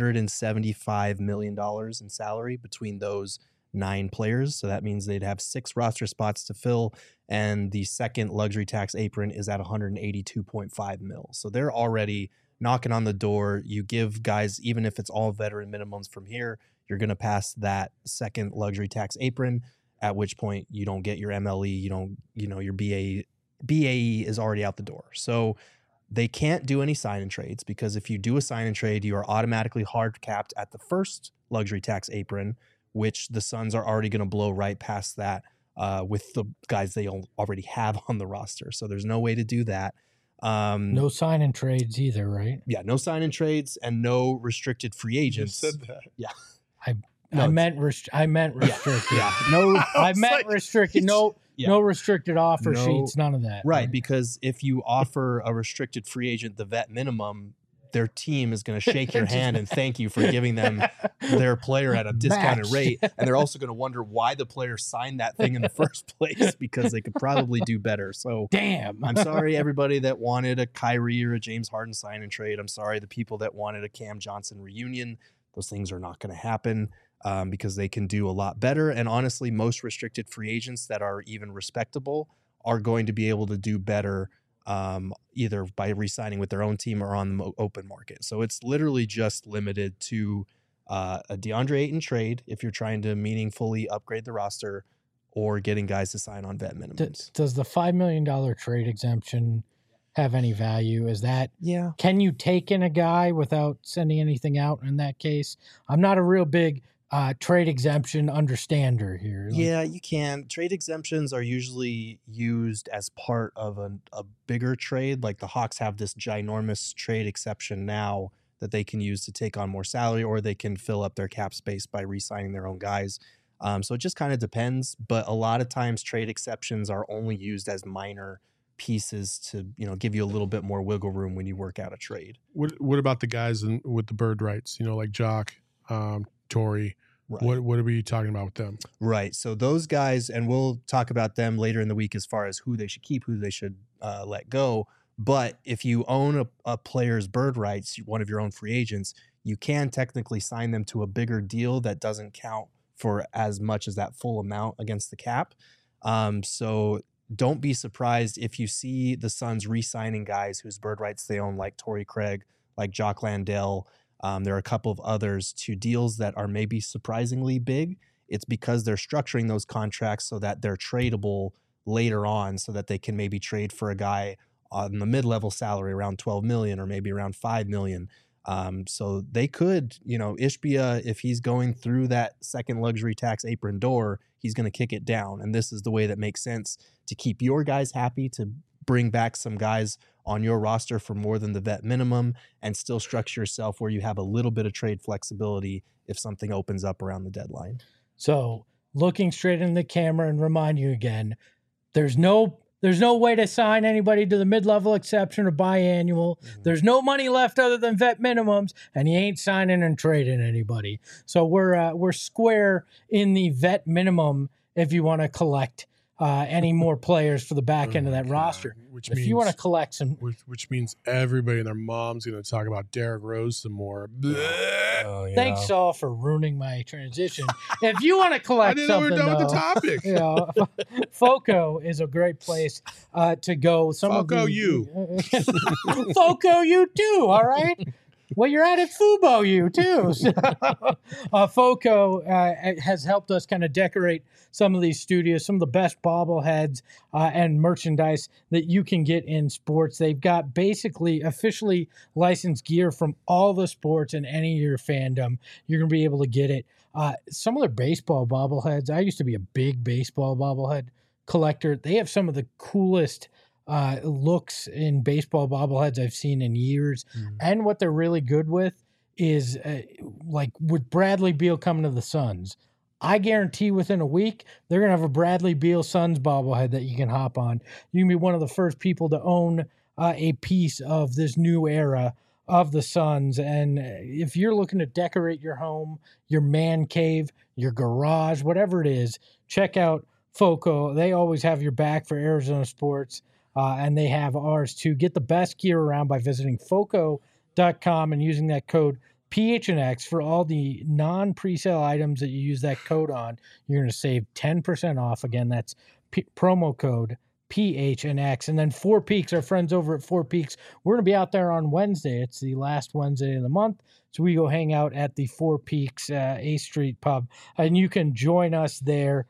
$175 million in salary between those 9 players. So that means they'd have 6 roster spots to fill. And the second luxury tax apron is at 182.5 mil. So they're already knocking on the door. You give guys, even if it's all veteran minimums from here, you're going to pass that second luxury tax apron, at which point you don't get your MLE, your BAE is already out the door. So they can't do any sign and trades, because if you do a sign and trade, you are automatically hard capped at the first luxury tax apron, which the Suns are already going to blow right past that with the guys they already have on the roster. So there's no way to do that. No sign and trades either, right? Yeah, no sign and trades and no restricted free agents. You said that. Yeah. I meant restricted. Yeah. No, I meant restricted. No, Yeah. no restricted offer No- sheets. None of that. right, because if you offer a restricted free agent the vet minimum, their team is going to shake your hand and thank you for giving them their player at a discounted Match. rate. And they're also going to wonder why the player signed that thing in the first place, because they could probably do better. So Damn. I'm sorry, everybody that wanted a Kyrie or a James Harden sign and trade. I'm sorry, the people that wanted a Cam Johnson reunion. Those things are not going to happen because they can do a lot better. And honestly, most restricted free agents that are even respectable are going to be able to do better either by re-signing with their own team or on the open market. So it's literally just limited to a DeAndre Ayton trade if you're trying to meaningfully upgrade the roster, or getting guys to sign on vet minimums. Does the $5 million trade exemption have any value? Is that, Yeah. can you take in a guy without sending anything out in that case? I'm not a real big trade exemption understander here. Like, Yeah, you can. Trade exemptions are usually used as part of a bigger trade. Like the Hawks have this ginormous trade exception now that they can use to take on more salary, or they can fill up their cap space by re-signing their own guys. So it just kind of depends. But a lot of times trade exceptions are only used as minor pieces to, give you a little bit more wiggle room when you work out a trade. What about the guys with the bird rights? Like Jock, Tory. Right. What are we talking about with them? Right. So those guys, and we'll talk about them later in the week as far as who they should keep, who they should let go. But if you own a player's bird rights, one of your own free agents, you can technically sign them to a bigger deal that doesn't count for as much as that full amount against the cap. So don't be surprised if you see the Suns re-signing guys whose bird rights they own, like Torrey Craig, like Jock Landale. There are a couple of others, to deals that are maybe surprisingly big. It's because they're structuring those contracts so that they're tradable later on, so that they can maybe trade for a guy on the mid-level salary around 12 million or maybe around 5 million. So they could, Ishbia, if he's going through that second luxury tax apron door, he's going to kick it down. And this is the way that makes sense to keep your guys happy, to bring back some guys on your roster for more than the vet minimum, and still structure yourself where you have a little bit of trade flexibility if something opens up around the deadline. So looking straight in the camera and remind you again, there's no way to sign anybody to the mid-level exception or biannual. Mm-hmm. There's no money left other than vet minimums, and you ain't signing and trading anybody. So we're square in the vet minimum if you want to collect any more players for the back end of that roster. If you want to collect some, which means everybody and their mom's going to talk about Derrick Rose some more. thanks all for ruining my transition. If you want to I think didn't know we something, were done with the though, topic. Foco is a great place to go. Foco you. Foco you too, all right? Well, you're at it, Fubo you too. So, Foco has helped us kind of decorate some of these studios, some of the best bobbleheads and merchandise that you can get in sports. They've got basically officially licensed gear from all the sports and any of your fandom. You're going to be able to get it. Some of their baseball bobbleheads, I used to be a big baseball bobblehead collector. They have some of the coolest looks in baseball bobbleheads I've seen in years. And what they're really good with is like with Bradley Beal coming to the Suns, I guarantee within a week, they're going to have a Bradley Beal Suns bobblehead that you can hop on. You can be one of the first people to own a piece of this new era of the Suns. And if you're looking to decorate your home, your man cave, your garage, whatever it is, check out Foco. They always have your back for Arizona sports. And they have ours too. Get the best gear around by visiting Foco.com PHNX.com and using that code PHNX for all the non-presale items that you use that code on, you're going to save 10% off. Again, that's promo code PHNX. And then Four Peaks, our friends over at Four Peaks, we're going to be out there on Wednesday. It's the last Wednesday of the month. So we go hang out at the Four Peaks A Street Pub, and you can join us there.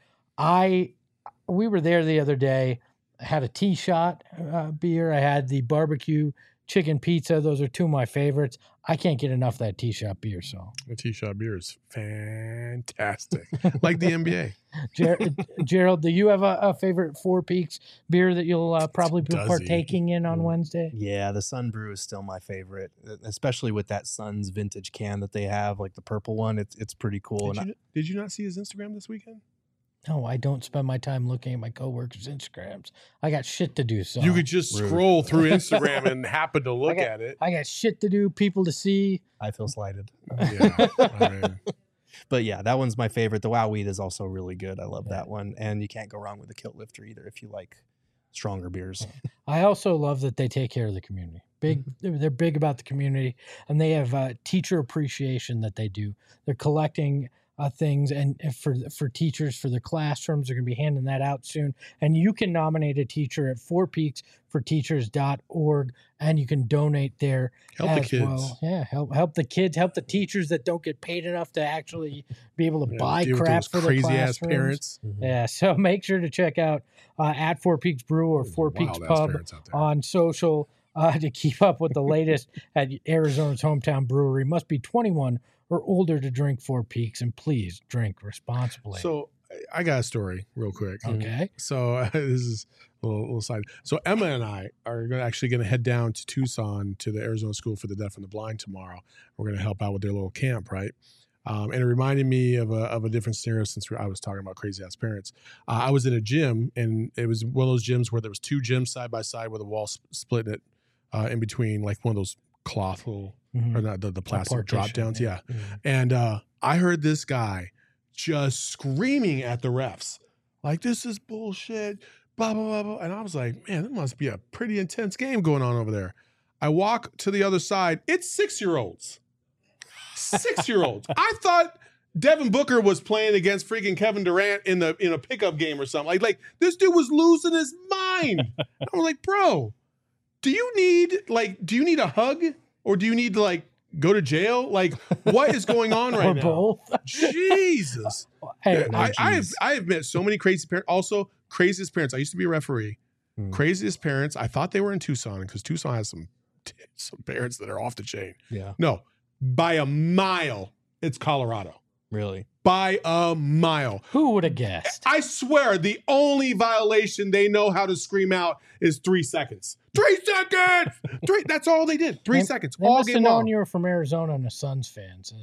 We were there the other day. I had a T-shot beer. I had the barbecue chicken pizza. Those are two of my favorites. I can't get enough of that T-shot beer. So The T-shot beer is fantastic, like the NBA. Gerald, do you have a favorite Four Peaks beer that you'll probably be Does he? partaking in on Wednesday? Yeah, the Sun Brew is still my favorite, especially with that Sun's vintage can that they have, like the purple one. It's pretty cool. Did you not see his Instagram this weekend? No, I don't spend my time looking at my coworkers' Instagrams. I got shit to do. So You could just scroll through Instagram and happen to look at it. I got shit to do, people to see. I feel slighted. Yeah, I mean, But yeah, that one's my favorite. The Wow Weed is also really good. I love that one. And you can't go wrong with the Kilt Lifter either if you like stronger beers. I also love that they take care of the community. They're big about the community, and they have teacher appreciation that they do. They're collecting things and for teachers for their classrooms. They're going to be handing that out soon. And you can nominate a teacher at fourpeaksforteachers.org, and you can donate there. Help the as kids. well. Yeah, help the kids, help the teachers that don't get paid enough to actually be able to buy deal with crap those for their crazy ass classrooms. parents. Yeah, so make sure to check out at Four Peaks Brew or Four Peaks Wild-ass Pub parents out there. on social to keep up with the latest at Arizona's hometown brewery. Must be 21 or older to drink Four Peaks, and please drink responsibly. So I got a story real quick. Okay. So this is a little side. So Emma and I are actually going to head down to Tucson to the Arizona School for the Deaf and the Blind tomorrow. We're going to help out with their little camp, right? And it reminded me of a different scenario since I was talking about crazy ass parents. I was in a gym, and it was one of those gyms where there was two gyms side by side with a wall splitting it in between, like one of those cloth little or not the plastic drop downs. Yeah. And I heard this guy just screaming at the refs, like, this is bullshit, blah, blah, blah, blah. And I was like, man, it must be a pretty intense game going on over there. I walk to the other side. It's 6-year-olds. 6-year-olds. I thought Devin Booker was playing against freaking Kevin Durant in a pickup game or something. Like this dude was losing his mind. I was like, bro, do you need a hug? Or do you need to go to jail? Like, what is going on right or now? both. Jesus. Hey, I have met so many crazy parents. Also, craziest parents. I used to be a referee. Craziest parents. I thought they were in Tucson because Tucson has some parents that are off the chain. Yeah. No, by a mile, it's Colorado. Really? By a mile. who would have guessed? I swear, the only violation they know how to scream out is 3 seconds. 3 seconds! That's all they did. 3 seconds. They All must have game known long. you were from Arizona and a Suns fan. So.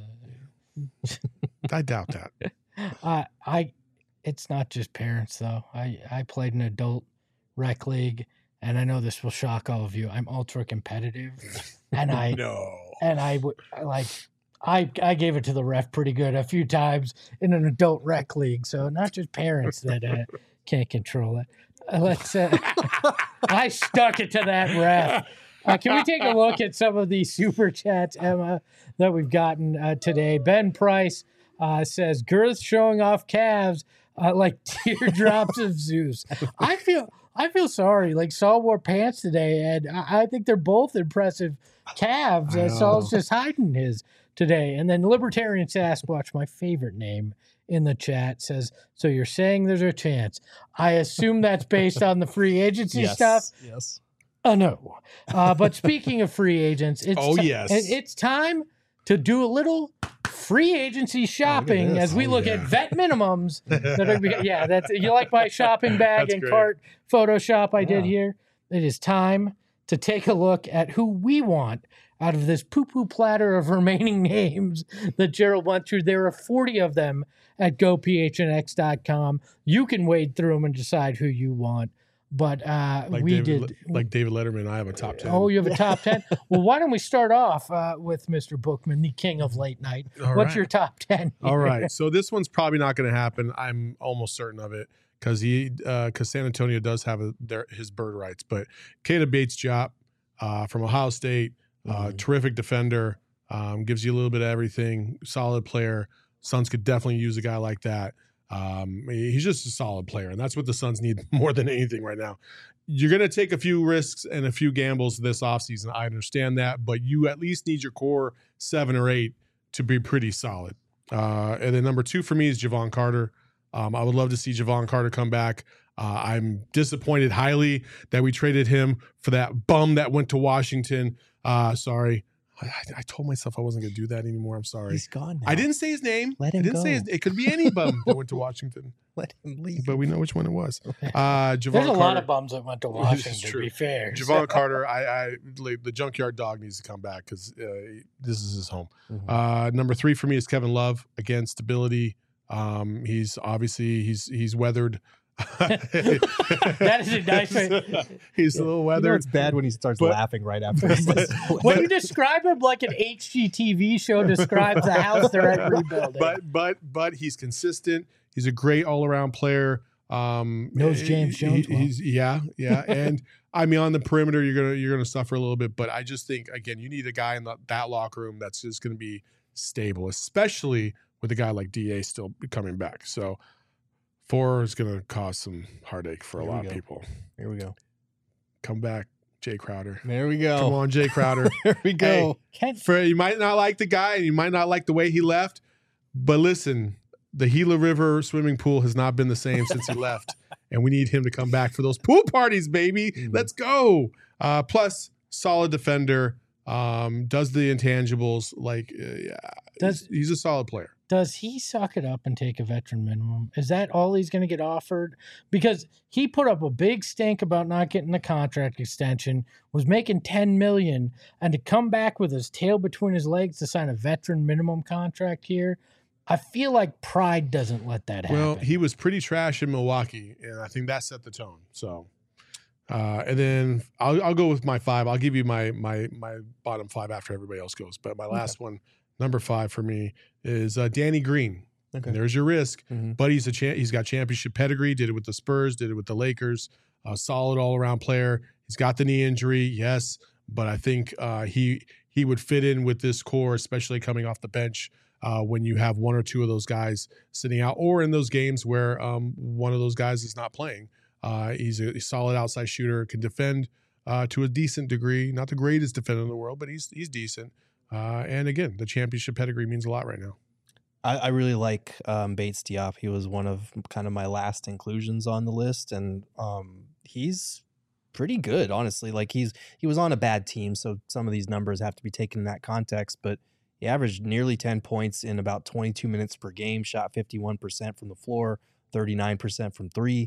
I doubt that. It's not just parents though. I played an adult rec league, and I know this will shock all of you. I'm ultra competitive, and I gave it to the ref pretty good a few times in an adult rec league. So not just parents that can't control it. I stuck it to that ref. Can we take a look at some of the super chats, Emma, that we've gotten today? Ben Price says, girth showing off calves like teardrops of Zeus. I feel sorry. Like Saul wore pants today, and I think they're both impressive calves. Saul's just hiding his today. And then Libertarian Sasquatch, my favorite name in the chat, says, so you're saying there's a chance. I assume that's based on the free agency stuff. Yes. No. But speaking of free agents, it's time to do a little free agency shopping as we look at vet minimums. That's you like my shopping bag and cart Photoshop I did here? It is time to take a look at who we want out of this poo-poo platter of remaining names that Gerald went through. There are 40 of them at gophnx.com. You can wade through them and decide who you want. But David Letterman, I have a top 10. Oh, you have a top 10? Well, why don't we start off with Mr. Bookman, the king of late night. What's your top 10? All right. So this one's probably not going to happen. I'm almost certain of it because San Antonio does have his bird rights. But Keita Bates-Diop from Ohio State, Terrific defender, gives you a little bit of everything. Solid player. Suns could definitely use a guy like that. He's just a solid player, and that's what the Suns need more than anything right now. You're going to take a few risks and a few gambles this offseason. I understand that, but you at least need your core 7 or 8 to be pretty solid. And then number 2 for me is Javon Carter. I would love to see Javon Carter come back. I'm disappointed highly that we traded him for that bum that went to Washington. Sorry. I told myself I wasn't going to do that anymore. I'm sorry. He's gone now. I didn't say his name. Let him I didn't go. say it could be any bum that went to Washington. Let him leave. But we know which one it was. Javon There's a lot Carter- of bums that went to This is Washington, to true. be fair. Javon Carter, the junkyard dog needs to come back because this is his home. Number 3 for me is Kevin Love. Again, stability. He's obviously he's weathered. That is a nice way. He's a little You know weathered. it's bad when he starts But- laughing right after. he says the When you describe him like an HGTV show describes the house they're at rebuilding. But he's consistent. He's a great all around player. Knows James Jones well. He's yeah. And I mean, on the perimeter, you're gonna suffer a little bit. But I just think again, you need a guy in that locker room that's just gonna be stable, especially with a guy like Da still coming back. So 4 is gonna cause some heartache for a There we lot of go. people. Here we go. Come back, Jay Crowder. There we go. Come on, Jay Crowder. There we go. Can't- You might not like the guy and you might not like the way he left, but listen, the Gila River swimming pool has not been the same since he left, and we need him to come back for those pool parties, baby. Let's go. Plus, solid defender, does the intangibles. He's a solid player. Does he suck it up and take a veteran minimum? Is that all he's going to get offered? Because he put up a big stink about not getting the contract extension, was making $10 million, and to come back with his tail between his legs to sign a veteran minimum contract here, I feel like pride doesn't let that happen. Well, he was pretty trash in Milwaukee, and I think that set the tone. So, and then I'll go with my 5. I'll give you my bottom 5 after everybody else goes. But my last one, number 5 for me, is Danny Green. Okay. And there's your risk, Mhm. but he's got championship pedigree. Did it with the Spurs. Did it with the Lakers. A solid all around player. He's got the knee injury, yes, but I think he would fit in with this core, especially coming off the bench. When you have 1 or 2 of those guys sitting out, or in those games where one of those guys is not playing. He's a solid outside shooter, can defend to a decent degree. Not the greatest defender in the world, but he's decent. And again, the championship pedigree means a lot right now. I really like Bates Diop. He was one of kind of my last inclusions on the list, and he's pretty good, honestly. Like he was on a bad team, so some of these numbers have to be taken in that context, but he averaged nearly 10 points in about 22 minutes per game, shot 51% from the floor, 39% from 3.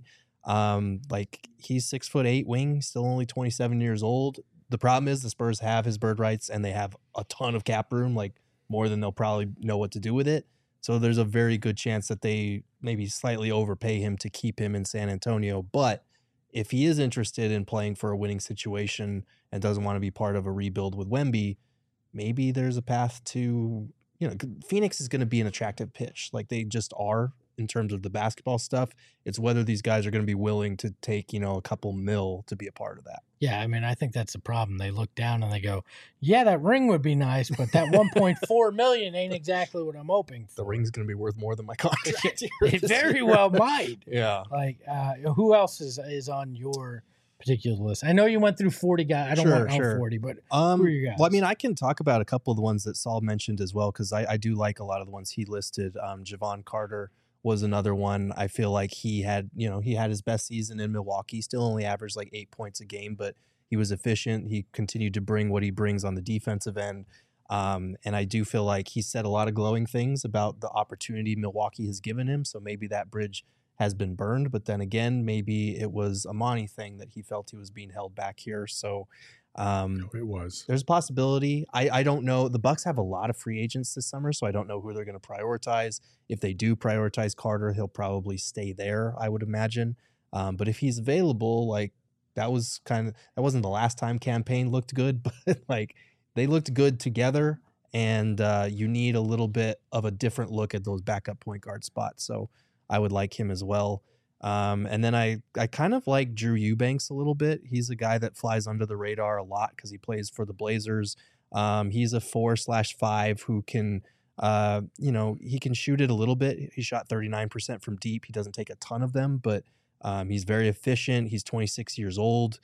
Like he's 6'8" wing, still only 27 years old. The problem is the Spurs have his bird rights and they have a ton of cap room, like more than they'll probably know what to do with it. So there's a very good chance that they maybe slightly overpay him to keep him in San Antonio. But if he is interested in playing for a winning situation and doesn't want to be part of a rebuild with Wemby, maybe there's a path to, Phoenix is going to be an attractive pitch. Like they just are in terms of the basketball stuff. It's whether these guys are going to be willing to take, a couple mil to be a part of that. Yeah, I mean, I think that's the problem. They look down and they go, yeah, that ring would be nice, but that $1.4 million ain't exactly what I'm hoping for. The ring's going to be worth more than my contract. It very well might. Yeah. Like, who else is on your particular list? I know you went through 40 guys. I don't want all 40, but who are your guys? Well, I mean, I can talk about a couple of the ones that Saul mentioned as well, because I do like a lot of the ones he listed. Javon Carter was another one. I feel like he had his best season in Milwaukee. Still only averaged like 8 points a game, but he was efficient. He continued to bring what he brings on the defensive end. And I do feel like he said a lot of glowing things about the opportunity Milwaukee has given him. So maybe that bridge has been burned, but then again, maybe it was a Monty thing that he felt he was being held back here. So It was. there's a possibility. I don't know. The Bucks have a lot of free agents this summer, so I don't know who they're going to prioritize. If they do prioritize Carter, he'll probably stay there, I would imagine. But if he's available, like that wasn't the last time campaign looked good, but like they looked good together, and you need a little bit of a different look at those backup point guard spots. So I would like him as well. And then I kind of like Drew Eubanks a little bit. He's a guy that flies under the radar a lot because he plays for the Blazers. He's a 4/5 who can, he can shoot it a little bit. He shot 39% from deep. He doesn't take a ton of them, but he's very efficient. He's 26 years old.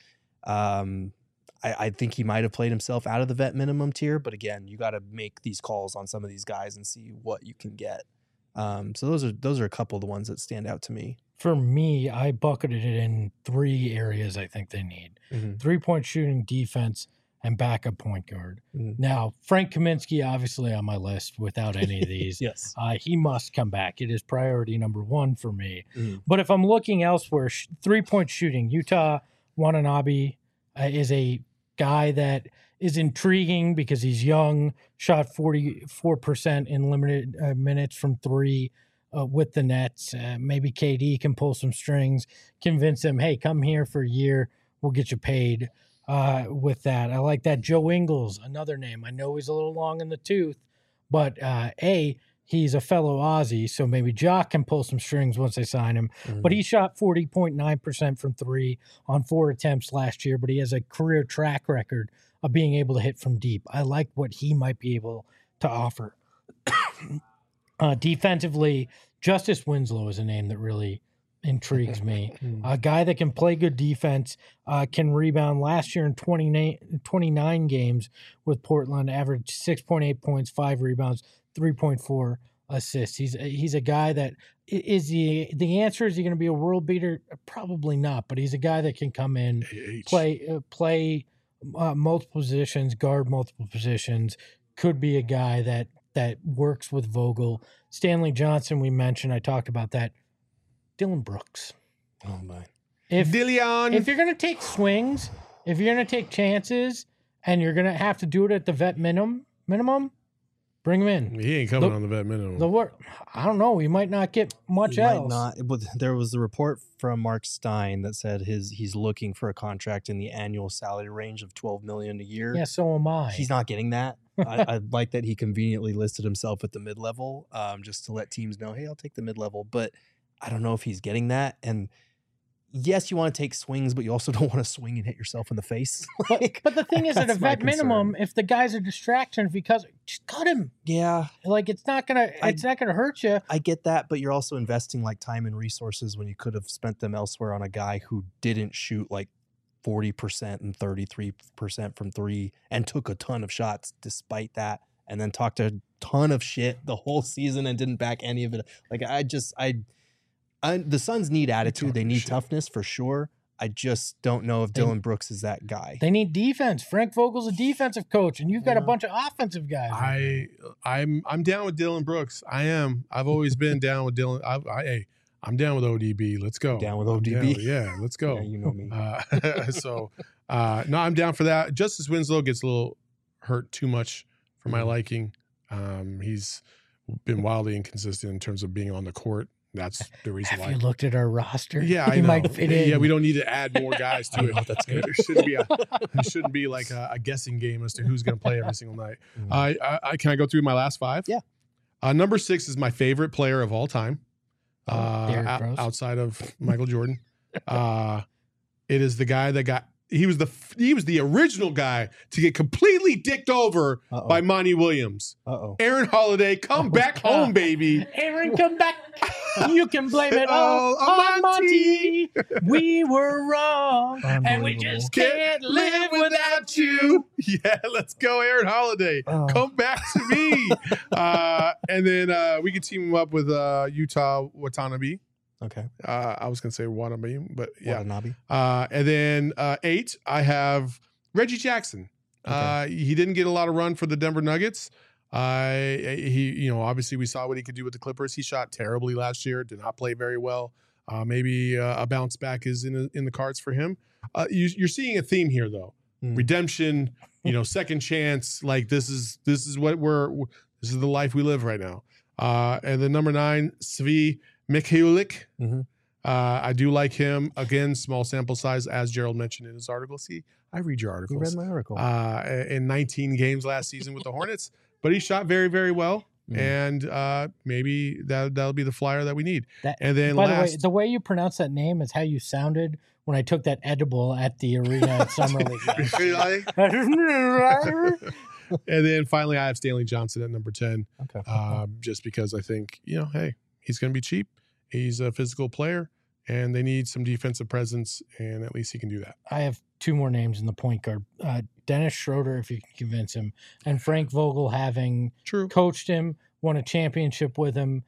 I think he might have played himself out of the vet minimum tier, but again, you got to make these calls on some of these guys and see what you can get. So those are a couple of the ones that stand out to me. For me, I bucketed it in 3 areas I think they need. 3-point shooting, defense, and backup point guard. Now, Frank Kaminsky, obviously on my list without any of these. Yes. He must come back. It is priority number 1 for me. But if I'm looking elsewhere, 3-point shooting, Yuta Watanabe is a guy that is intriguing because he's young, shot 44% in limited minutes from 3 with the Nets. Maybe KD can pull some strings, convince him, hey, come here for a year. We'll get you paid with that. I like that. Joe Ingles, another name. I know he's a little long in the tooth, but he's a fellow Aussie, so maybe Jock can pull some strings once they sign him. But he shot 40.9% from 3 on 4 attempts last year, but he has a career track record of being able to hit from deep. I like what he might be able to offer. Defensively, Justice Winslow is a name that really intrigues me. A guy that can play good defense, can rebound. Last year in 29 games with Portland, averaged 6.8 points, 5 rebounds, 3.4 assists. He's a guy that is the answer. Is he going to be a world beater? Probably not, but he's a guy that can come in, play multiple positions, guard multiple positions. Could be a guy that works with Vogel. Stanley Johnson, we mentioned. I talked about that. Dylan Brooks. Oh my! If you're Dillion. going to take swings, if you're going to take chances, and you're going to have to do it at the vet minimum, bring him in. He ain't coming on the vet minimum. I don't know. He might not get much else. Might not, but there was a report from Mark Stein that said he's looking for a contract in the annual salary range of $12 million a year. Yeah, so am I. He's not getting that. I like that he conveniently listed himself at the mid-level, just to let teams know, hey, I'll take the mid-level. But I don't know if he's getting that. And yes, you want to take swings, but you also don't want to swing and hit yourself in the face. But the thing is, at a vet minimum, if the guy's a distraction, just cut him. Yeah, like it's not gonna hurt you. I get that, but you're also investing like time and resources when you could have spent them elsewhere on a guy who didn't shoot like 40% and 33% from 3 and took a ton of shots despite that, and then talked a ton of shit the whole season and didn't back any of it. Like the Suns need attitude. They need toughness for sure. I just don't know if Dylan Brooks is that guy. They need defense. Frank Vogel's a defensive coach, and you've got a bunch of offensive guys. I'm down with Dylan Brooks. I am. I've always been down with Dylan. I'm down with ODB. Let's go. Down with ODB. Yeah, let's go. Yeah, you know me. No, I'm down for that. Justice Winslow gets a little hurt too much for my liking. He's been wildly inconsistent in terms of being on the court. That's the reason why. Have you looked at our roster? Yeah, I he know. might fit in. Yeah, we don't need to add more guys to it. That's good. It shouldn't be like a guessing game as to who's going to play every single night. Can I go through my last 5? Yeah. Number 6 is my favorite player of all time, outside of Michael Jordan. It is the guy that he was the original guy to get completely dicked over by Monty Williams. Aaron Holiday, come back home, baby. Aaron, come back. You can blame it all on Monty. We were wrong, and we just can't live without you. Yeah, let's go, Aaron Holiday. Come back to me. And then we can team him up with Yuta Watanabe. Okay. I was going to say Watanabe, but yeah. Watanabe. And then 8, I have Reggie Jackson. Okay. He didn't get a lot of run for the Denver Nuggets. Obviously we saw what he could do with the Clippers. He shot terribly last year, did not play very well. Maybe a bounce back is in the cards for him. You're seeing a theme here though. Redemption, second chance. Like this is what this is the life we live right now. And then number 9, Svi Mykhailiuk. I do like him. Again, small sample size, as Gerald mentioned in his article. See, I read your articles. You read my article. In 19 games last season with the Hornets, but he shot very, very well. And maybe that'll be the flyer that we need. And then by the way, the way you pronounce that name is how you sounded when I took that edible at the arena at Summer League. And then finally, I have Stanley Johnson at number 10, Okay. just because I think, hey, he's going to be cheap. He's a physical player, and they need some defensive presence, and at least he can do that. I have two more names in the point guard. Dennis Schroeder, if you can convince him, and Frank Vogel, having True. coached him, won a championship with him.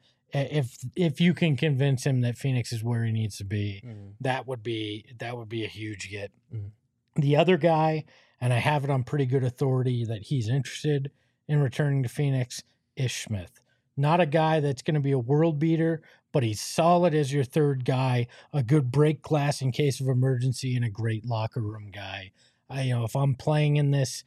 If you can convince him that Phoenix is where he needs to be, that would be a huge get. The other guy, and I have it on pretty good authority that he's interested in returning to Phoenix, is Smith. Not a guy that's going to be a world beater, but he's solid as your third guy, a good break glass in case of emergency, and a great locker room guy. If I'm playing in this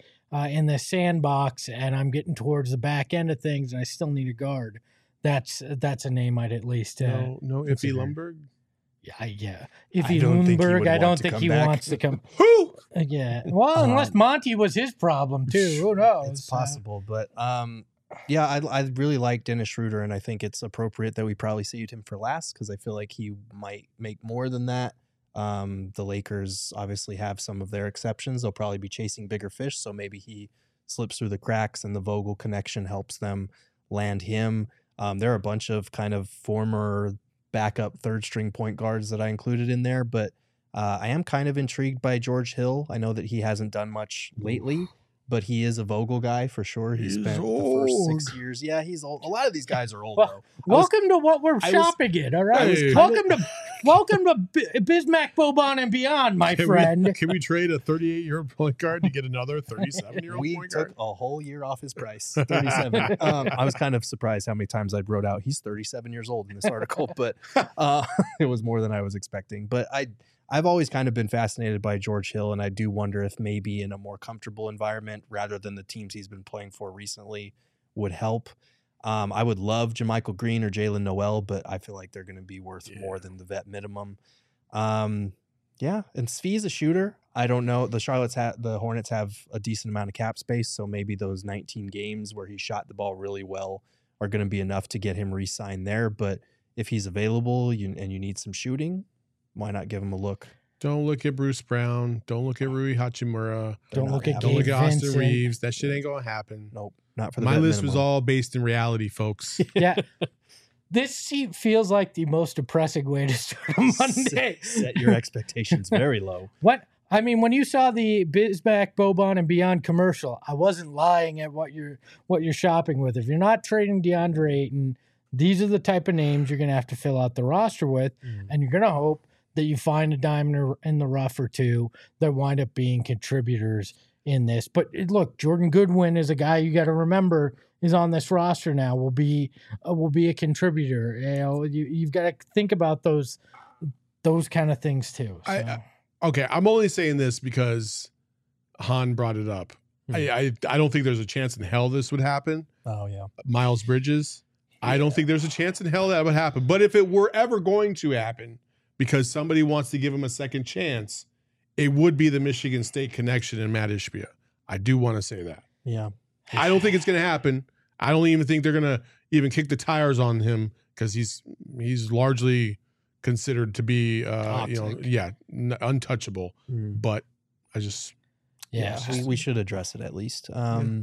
sandbox and I'm getting towards the back end of things and I still need a guard, that's a name I'd at least No Iffy Lumberg. Yeah. I Iffy don't think he would Lundberg, I want don't to think come he back. wants to come. Who? Yeah. Well, unless Monty was his problem too. Who knows? It's possible, but yeah, I really like Dennis Schroeder, and I think it's appropriate that we probably saved him for last because I feel like he might make more than that. The Lakers obviously have some of their exceptions. They'll probably be chasing bigger fish, so maybe he slips through the cracks, and the Vogel connection helps them land him. There are a bunch of kind of former backup third string point guards that I included in there, but I am kind of intrigued by George Hill. I know that he hasn't done much lately, but he is a Vogel guy for sure. He He's spent old. the first 6 years. Yeah, he's old. A lot of these guys are old, Well, though. Welcome to what we're I was- shopping in, all right? Hey. Welcome to Bismack, Boban, and beyond, my friend. Can we trade a 38-year-old point guard to get another 37-year-old We point took guard? a whole year off his price, 37. I was kind of surprised how many times I wrote out he's 37 years old in this article, but it was more than I was expecting. But I've always kind of been fascinated by George Hill, and I do wonder if maybe in a more comfortable environment rather than the teams he's been playing for recently would help. I would love JaMychal Green or Jalen Noel, but I feel like they're going to be worth more than the vet minimum. Yeah, and Svi's a shooter. I don't know. The Hornets have a decent amount of cap space, so maybe those 19 games where he shot the ball really well are going to be enough to get him re-signed there. But if he's available and you need some shooting, why not give him a look? Don't look at Bruce Brown. Don't look at Rui Hachimura. Don't look at Don't look Gabe at Austin Vincent. Reeves. That shit ain't gonna happen. Nope, not for the My vet list was minimum. all based in reality, folks. Yeah. This feels like the most depressing way to start a Monday. Set your expectations very low. When you saw the Bismack, Boban, and Beyond commercial, I wasn't lying at what you're shopping with. If you're not trading DeAndre Ayton, these are the type of names you're going to have to fill out the roster with, and you're going to hope that you find a diamond in the rough or two that wind up being contributors in this. But look, Jordan Goodwin is a guy you got to remember is on this roster now. Will be a contributor. You've got to think about those kind of things too. So. Okay, I'm only saying this because Han brought it up. I don't think there's a chance in hell this would happen. Oh yeah. Miles Bridges. I don't think there's a chance in hell that would happen. But if it were ever going to happen, because somebody wants to give him a second chance, it would be the Michigan State connection and Matt Ishbia. I do want to say that. Yeah. I don't think it's going to happen. I don't even think they're going to even kick the tires on him because he's largely considered to be, untouchable. But I just, we should address it at least. And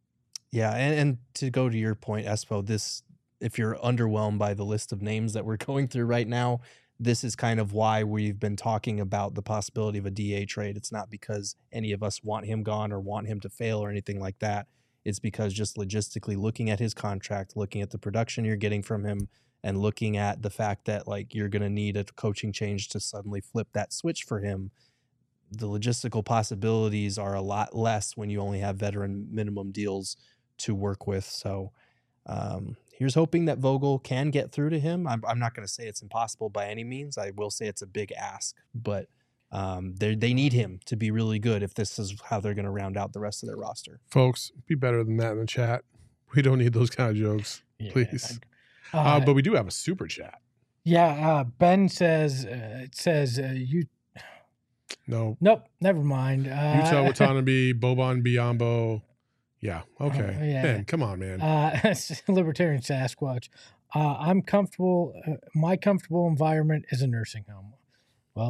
to go to your point, Espo, if you're underwhelmed by the list of names that we're going through right now, this is kind of why we've been talking about the possibility of a DA trade. It's not because any of us want him gone or want him to fail or anything like that. It's because just logistically looking at his contract, looking at the production you're getting from him, and looking at the fact that like you're going to need a coaching change to suddenly flip that switch for him, the logistical possibilities are a lot less when you only have veteran minimum deals to work with. So here's hoping that Vogel can get through to him. I'm not going to say it's impossible by any means. I will say it's a big ask, but they need him to be really good if this is how they're going to round out the rest of their roster. folks, be better than that in the chat. We don't need those kind of jokes, please. But we do have a super chat. Yeah, Ben says you. No. Nope, never mind. Utah Watanabe, Boban Biombo. Yeah. Okay. Yeah. Ben, come on, man. Libertarian Sasquatch. I'm comfortable. My comfortable environment is a nursing home. Well,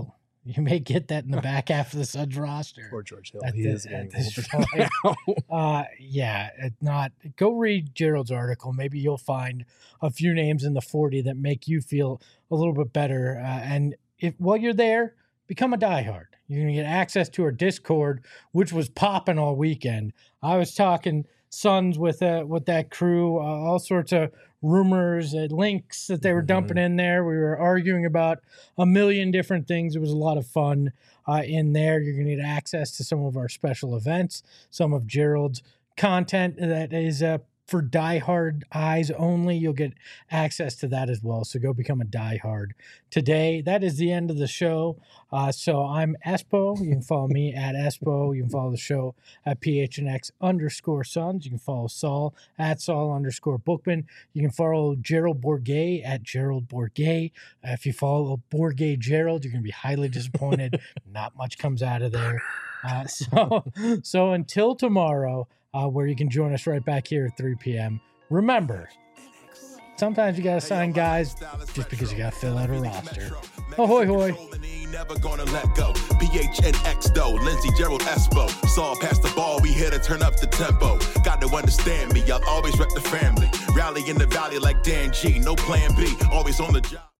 You may get that in the back half of the Suns roster. Poor George Hill. At He the- is at getting this older now. Yeah, not. Go read Gerald's article. Maybe you'll find a few names in the 40 that make you feel a little bit better. And if while you're there, become a diehard. You're gonna get access to our Discord, which was popping all weekend. I was talking Suns with that crew, all sorts of rumors and links that they were dumping in there. We were arguing about a million different things. It was a lot of fun in there. You're going to get access to some of our special events, some of Gerald's content that is for diehard eyes only. You'll get access to that as well. So go become a diehard today. That is the end of the show. So I'm Espo. You can follow me at Espo. You can follow the show at PHNX_Suns. You can follow Saul at Saul_Bookman. You can follow Gerald Bourguet at Gerald Bourguet. If you follow Bourguet Gerald, you're going to be highly disappointed. Not much comes out of there. So until tomorrow, where you can join us right back here at 3 p.m. Remember, sometimes you got to sign guys just because you got to fill out a roster. Ahoy, hoy. Never gonna let go. PHNX though, Lindsey, Gerald, Espo. Saw past the ball, we here to turn up the tempo. Got to understand me, I'll always rep the family. Rally in the valley like Dan G, no plan B, always on the job.